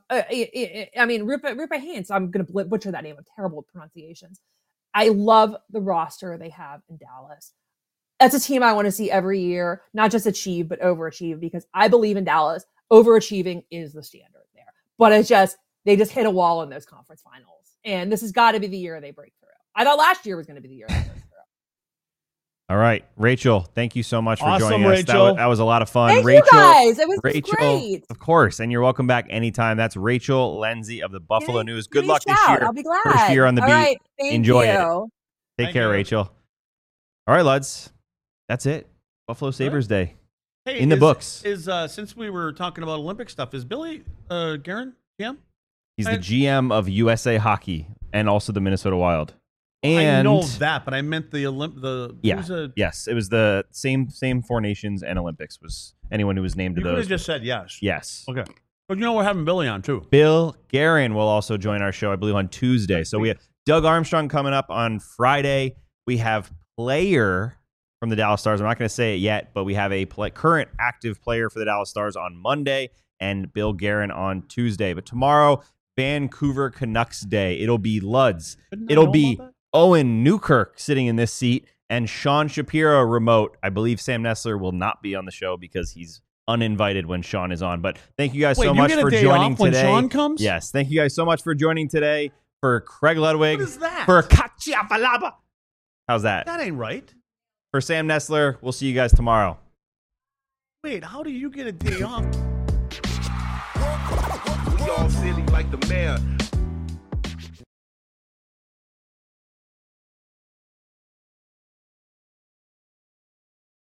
Speaker 3: I, I mean, Rupa, Rupa Hintz, I'm going to butcher that name with terrible pronunciations. I love the roster they have in Dallas. That's a team I want to see every year, not just achieve, but overachieve, because I believe in Dallas, overachieving is the standard there. But it's just, they just hit a wall in those conference finals. And this has got to be the year they break through. I thought last year was going to be the year they break through.
Speaker 2: All right, Rachel, thank you so much for
Speaker 1: Awesome,
Speaker 2: joining us. That
Speaker 1: Rachel.
Speaker 2: was, that was a lot of fun.
Speaker 3: Thank
Speaker 2: Rachel,
Speaker 3: you guys. It was
Speaker 2: Rachel,
Speaker 3: great.
Speaker 2: Of course, and you're welcome back anytime. That's Rachel Lindsay of the Buffalo
Speaker 3: Give me-
Speaker 2: News.
Speaker 3: give
Speaker 2: Good
Speaker 3: me a
Speaker 2: luck this
Speaker 3: shout.
Speaker 2: year.
Speaker 3: I'll be glad.
Speaker 2: First year on the
Speaker 3: All
Speaker 2: beat.
Speaker 3: right, thank
Speaker 2: Enjoy
Speaker 3: you.
Speaker 2: it. Take
Speaker 1: Thank
Speaker 2: care,
Speaker 1: you.
Speaker 2: Rachel. All right, Luds. That's it. Buffalo Sabres Day.
Speaker 1: Hey,
Speaker 2: In the
Speaker 1: is,
Speaker 2: books.
Speaker 1: Is uh, since we were talking about Olympic stuff, is Billy uh, Guerin G M?
Speaker 2: He's
Speaker 1: I-
Speaker 2: the G M of U S A Hockey and also the Minnesota Wild. And
Speaker 1: I know that, but I meant the Olymp. The
Speaker 2: Yeah.
Speaker 1: who's a,
Speaker 2: yes, it was the same same Four Nations and Olympics was anyone who was named
Speaker 1: you
Speaker 2: to
Speaker 1: could
Speaker 2: those.
Speaker 1: have just said yes.
Speaker 2: yes.
Speaker 1: Okay. But you know we're having Billy on too.
Speaker 2: Bill Guerin will also join our show, I believe, on Tuesday. So we have Doug Armstrong coming up on Friday. We have player from the Dallas Stars. I'm not going to say it yet, but we have a play, current active player for the Dallas Stars on Monday and Bill Guerin on Tuesday. But tomorrow, Vancouver Canucks Day. It'll be Luds.
Speaker 1: Couldn't I
Speaker 2: It'll
Speaker 1: know
Speaker 2: be
Speaker 1: about that?
Speaker 2: Owen Newkirk sitting in this seat and Sean Shapiro remote. I believe Sam Nestler will not be on the show because he's uninvited when Sean is on. But thank you guys
Speaker 1: Wait,
Speaker 2: so
Speaker 1: you
Speaker 2: much
Speaker 1: get a
Speaker 2: for
Speaker 1: day
Speaker 2: joining
Speaker 1: off when
Speaker 2: today.
Speaker 1: Sean comes?
Speaker 2: Yes, thank you guys so much for joining today. For Craig Ludwig,
Speaker 1: What is that?
Speaker 2: for Katya Falaba. How's that?
Speaker 1: That ain't right.
Speaker 2: For Sam Nestler, we'll see you guys tomorrow.
Speaker 1: Wait, how do you get a day off?
Speaker 5: We all silly like the mayor.